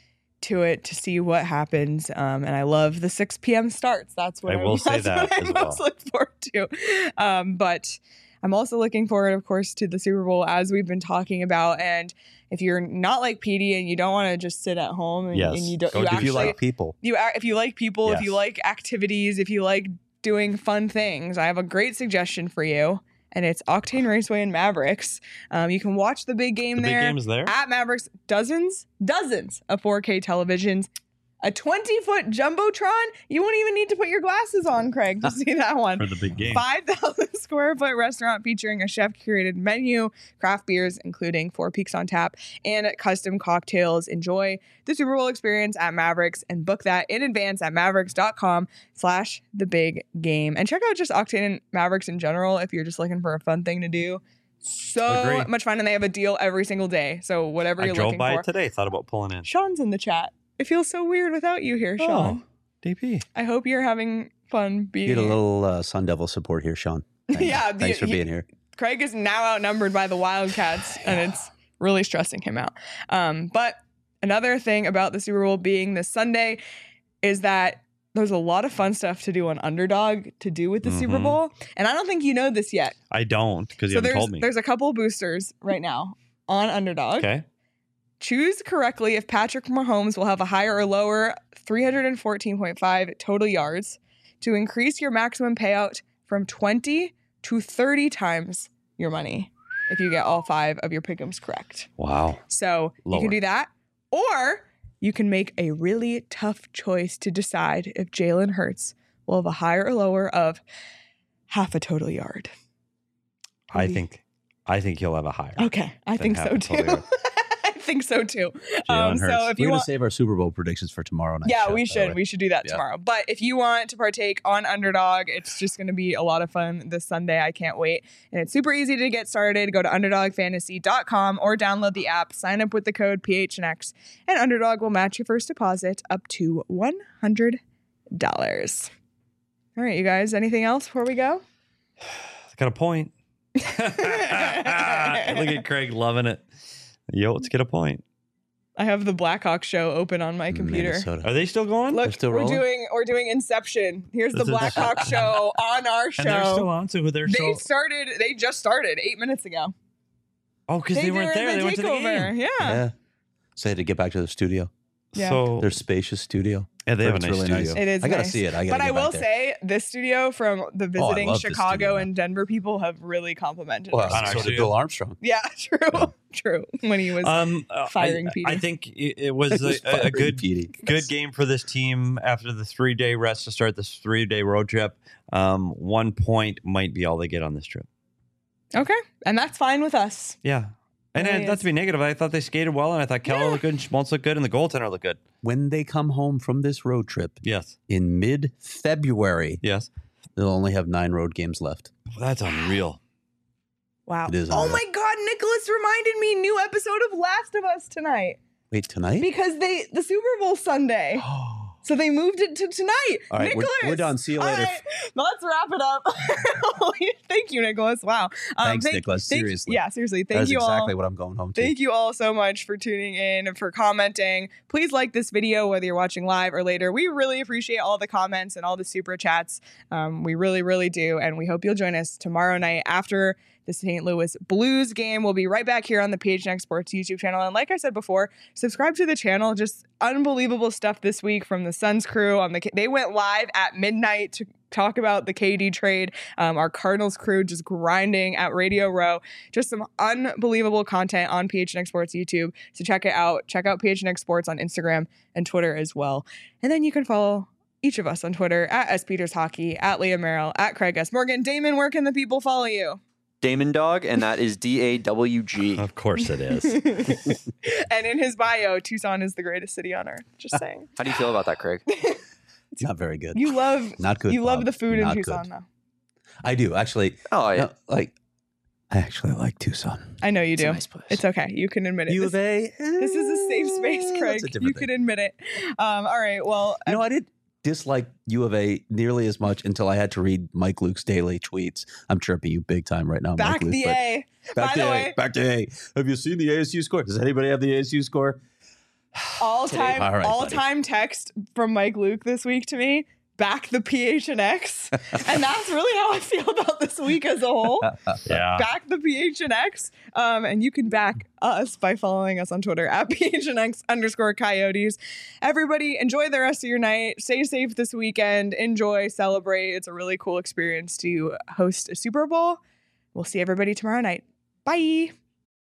to it to see what happens. Um, and I love the six p.m. starts. That's what I I'm, will say that's that what I as well. most look forward to. Um, but I'm also looking forward, of course, to the Super Bowl as we've been talking about. And if you're not like Petey and you don't want to just sit at home and, Yes. and you don't, Go you do- If actually, you like people, you ac- if you like people, if you Yes. like activities, if you like doing fun things, I have a great suggestion for you. And it's Octane Raceway and Mavericks. Um, you can watch the big game The big there game is there. at Mavericks. Dozens, dozens of four K televisions. A twenty foot Jumbotron. You won't even need to put your glasses on, Craig, to see that one. For the big game. five thousand square foot restaurant featuring a chef curated menu, craft beers, including Four Peaks on tap, and custom cocktails. Enjoy the Super Bowl experience at Mavericks and book that in advance at mavericks.com slash the big game. And check out just Octane and Mavericks in general if you're just looking for a fun thing to do. So Agreed. much fun, and they have a deal every single day. So whatever I you're drove looking by for. it today. Thought about pulling in. Sean's in the chat. It feels so weird without you here, Sean. Oh, D P. I hope you're having fun being get a here. little uh, Sun Devil support here, Sean. Thanks. Yeah, Thanks the- for he- being here. Craig is now outnumbered by the Wildcats, and it's really stressing him out. Um, but another thing about the Super Bowl being this Sunday is that there's a lot of fun stuff to do on Underdog to do with the Super Mhm. Bowl, and I don't think you know this yet. I don't because you So haven't there's told me. there's a couple boosters right now on Underdog. Okay. Choose correctly if Patrick Mahomes will have a higher or lower three hundred fourteen point five total yards to increase your maximum payout from twenty to thirty times your money if you get all five of your pick'ems correct. Wow. So you Lower. can do that, or you can make a really tough choice to decide if Jalen Hurts will have a higher or lower of half a total yard. I Maybe. think I think he'll have a higher. Okay, I than think half so a too. total yard. I think so too. Jalen Um, so Hurts. if We're you gonna want, save our Super Bowl predictions for tomorrow night. yeah, show, we by the should. way. We should do that Yeah. tomorrow. But if you want to partake on Underdog, it's just going to be a lot of fun this Sunday. I can't wait. And it's super easy to get started. Go to underdog fantasy dot com or download the app. Sign up with the code P H N X, and Underdog will match your first deposit up to one hundred dollars. All right, you guys. Anything else before we go? Got a point. Look at Craig loving it. Yo, let's get a point. I have the Blackhawk show open on my computer. Minnesota. Are they still going? Look, still we're rolling? doing we're doing Inception. Here's the This is- Blackhawk show on our show. And they're still on, so they're They still. started. They just started eight minutes ago. Oh, because they, weren't were there. the They went to the takeover. game. Yeah. Yeah. So they had to get back to the studio. Yeah. So Their spacious studio. yeah, they have a It's nice really studio. nice. It is I gotta nice. see it. I gotta But I get will back there. say, this studio from the visiting love this Chicago studio. and Denver people have really complimented. Well, our On our so studio. did studio. Bill Armstrong. Yeah, true, Yeah. true. When he was Um, uh, firing I, Petey. I think it, it was a, Just a, a firing good Petey. good game for this team after the three day rest to start this three day road trip. Um, one point might be all they get on this trip. okay, and that's fine with us. Yeah. And Really uh, not is. to be negative, I thought they skated well, and I thought Keller Yeah. looked good, and Schmaltz looked good, and the goaltender looked good. When they come home from this road trip Yes. in mid-February, Yes. they'll only have nine road games left. That's unreal. Wow. It is Oh unreal. my God, Nicholas reminded me new episode of Last of Us tonight Wait, tonight? because they the Super Bowl Sunday. So they moved it to tonight. All right, we're- Nicholas. we're done. See you All later. right, let's wrap it up. Thank you, Nicholas. Wow. Um, Thanks, thank- Nicholas. thank- Seriously. Yeah, seriously. Thank That's you exactly all. what I'm going home to. Thank you all so much for tuning in and for commenting. Please like this video, whether you're watching live or later. We really appreciate all the comments and all the super chats. Um, we really, really do. And we hope you'll join us tomorrow night after the Saint Louis Blues game. We'll be right back here on the P H N X Sports YouTube channel. And like I said before, subscribe to the channel. Just unbelievable stuff this week from the Suns crew. On the They went live at midnight to talk about the K D trade. Um, our Cardinals crew just grinding at Radio Row. Just some unbelievable content on P H N X Sports YouTube. So check it out. Check out P H N X Sports on Instagram and Twitter as well. And then you can follow each of us on Twitter at S Peters Hockey, at Leah Merrill, at Craig S. Morgan. Damon, where can the people follow you? Damon Dog, and that is D A W G. Of course it is. And in his bio, Tucson is the greatest city on earth. Just saying. How do you feel about that, Craig? It's not very good. You love Not good. you love Bob. the food in Not Tucson, good. though. I do actually. Oh, yeah. No, like, I actually like Tucson. I know you It's do. a nice place. It's okay. You can admit it. U This, of A. this is a safe space, eh, Craig. that's a You different can thing. admit it. Um, all right. Well, You know, I didn't dislike U of A nearly as much until I had to read Mike Luke's daily tweets. I'm chirping you big time right now, back Mike Luke. the but- A. Back By to the A. way- Back to A. Have you seen the A S U score? Does anybody have the A S U score? All time, All right, all buddy. time text from Mike Luke this week to me. Back the P H N X, and that's really how I feel about this week as a whole. Yeah. Back the P H N X, um, and you can back us by following us on Twitter at P H N X underscore Coyotes. Everybody, enjoy the rest of your night. Stay safe this weekend. Enjoy, celebrate. It's a really cool experience to host a Super Bowl. We'll see everybody tomorrow night. Bye.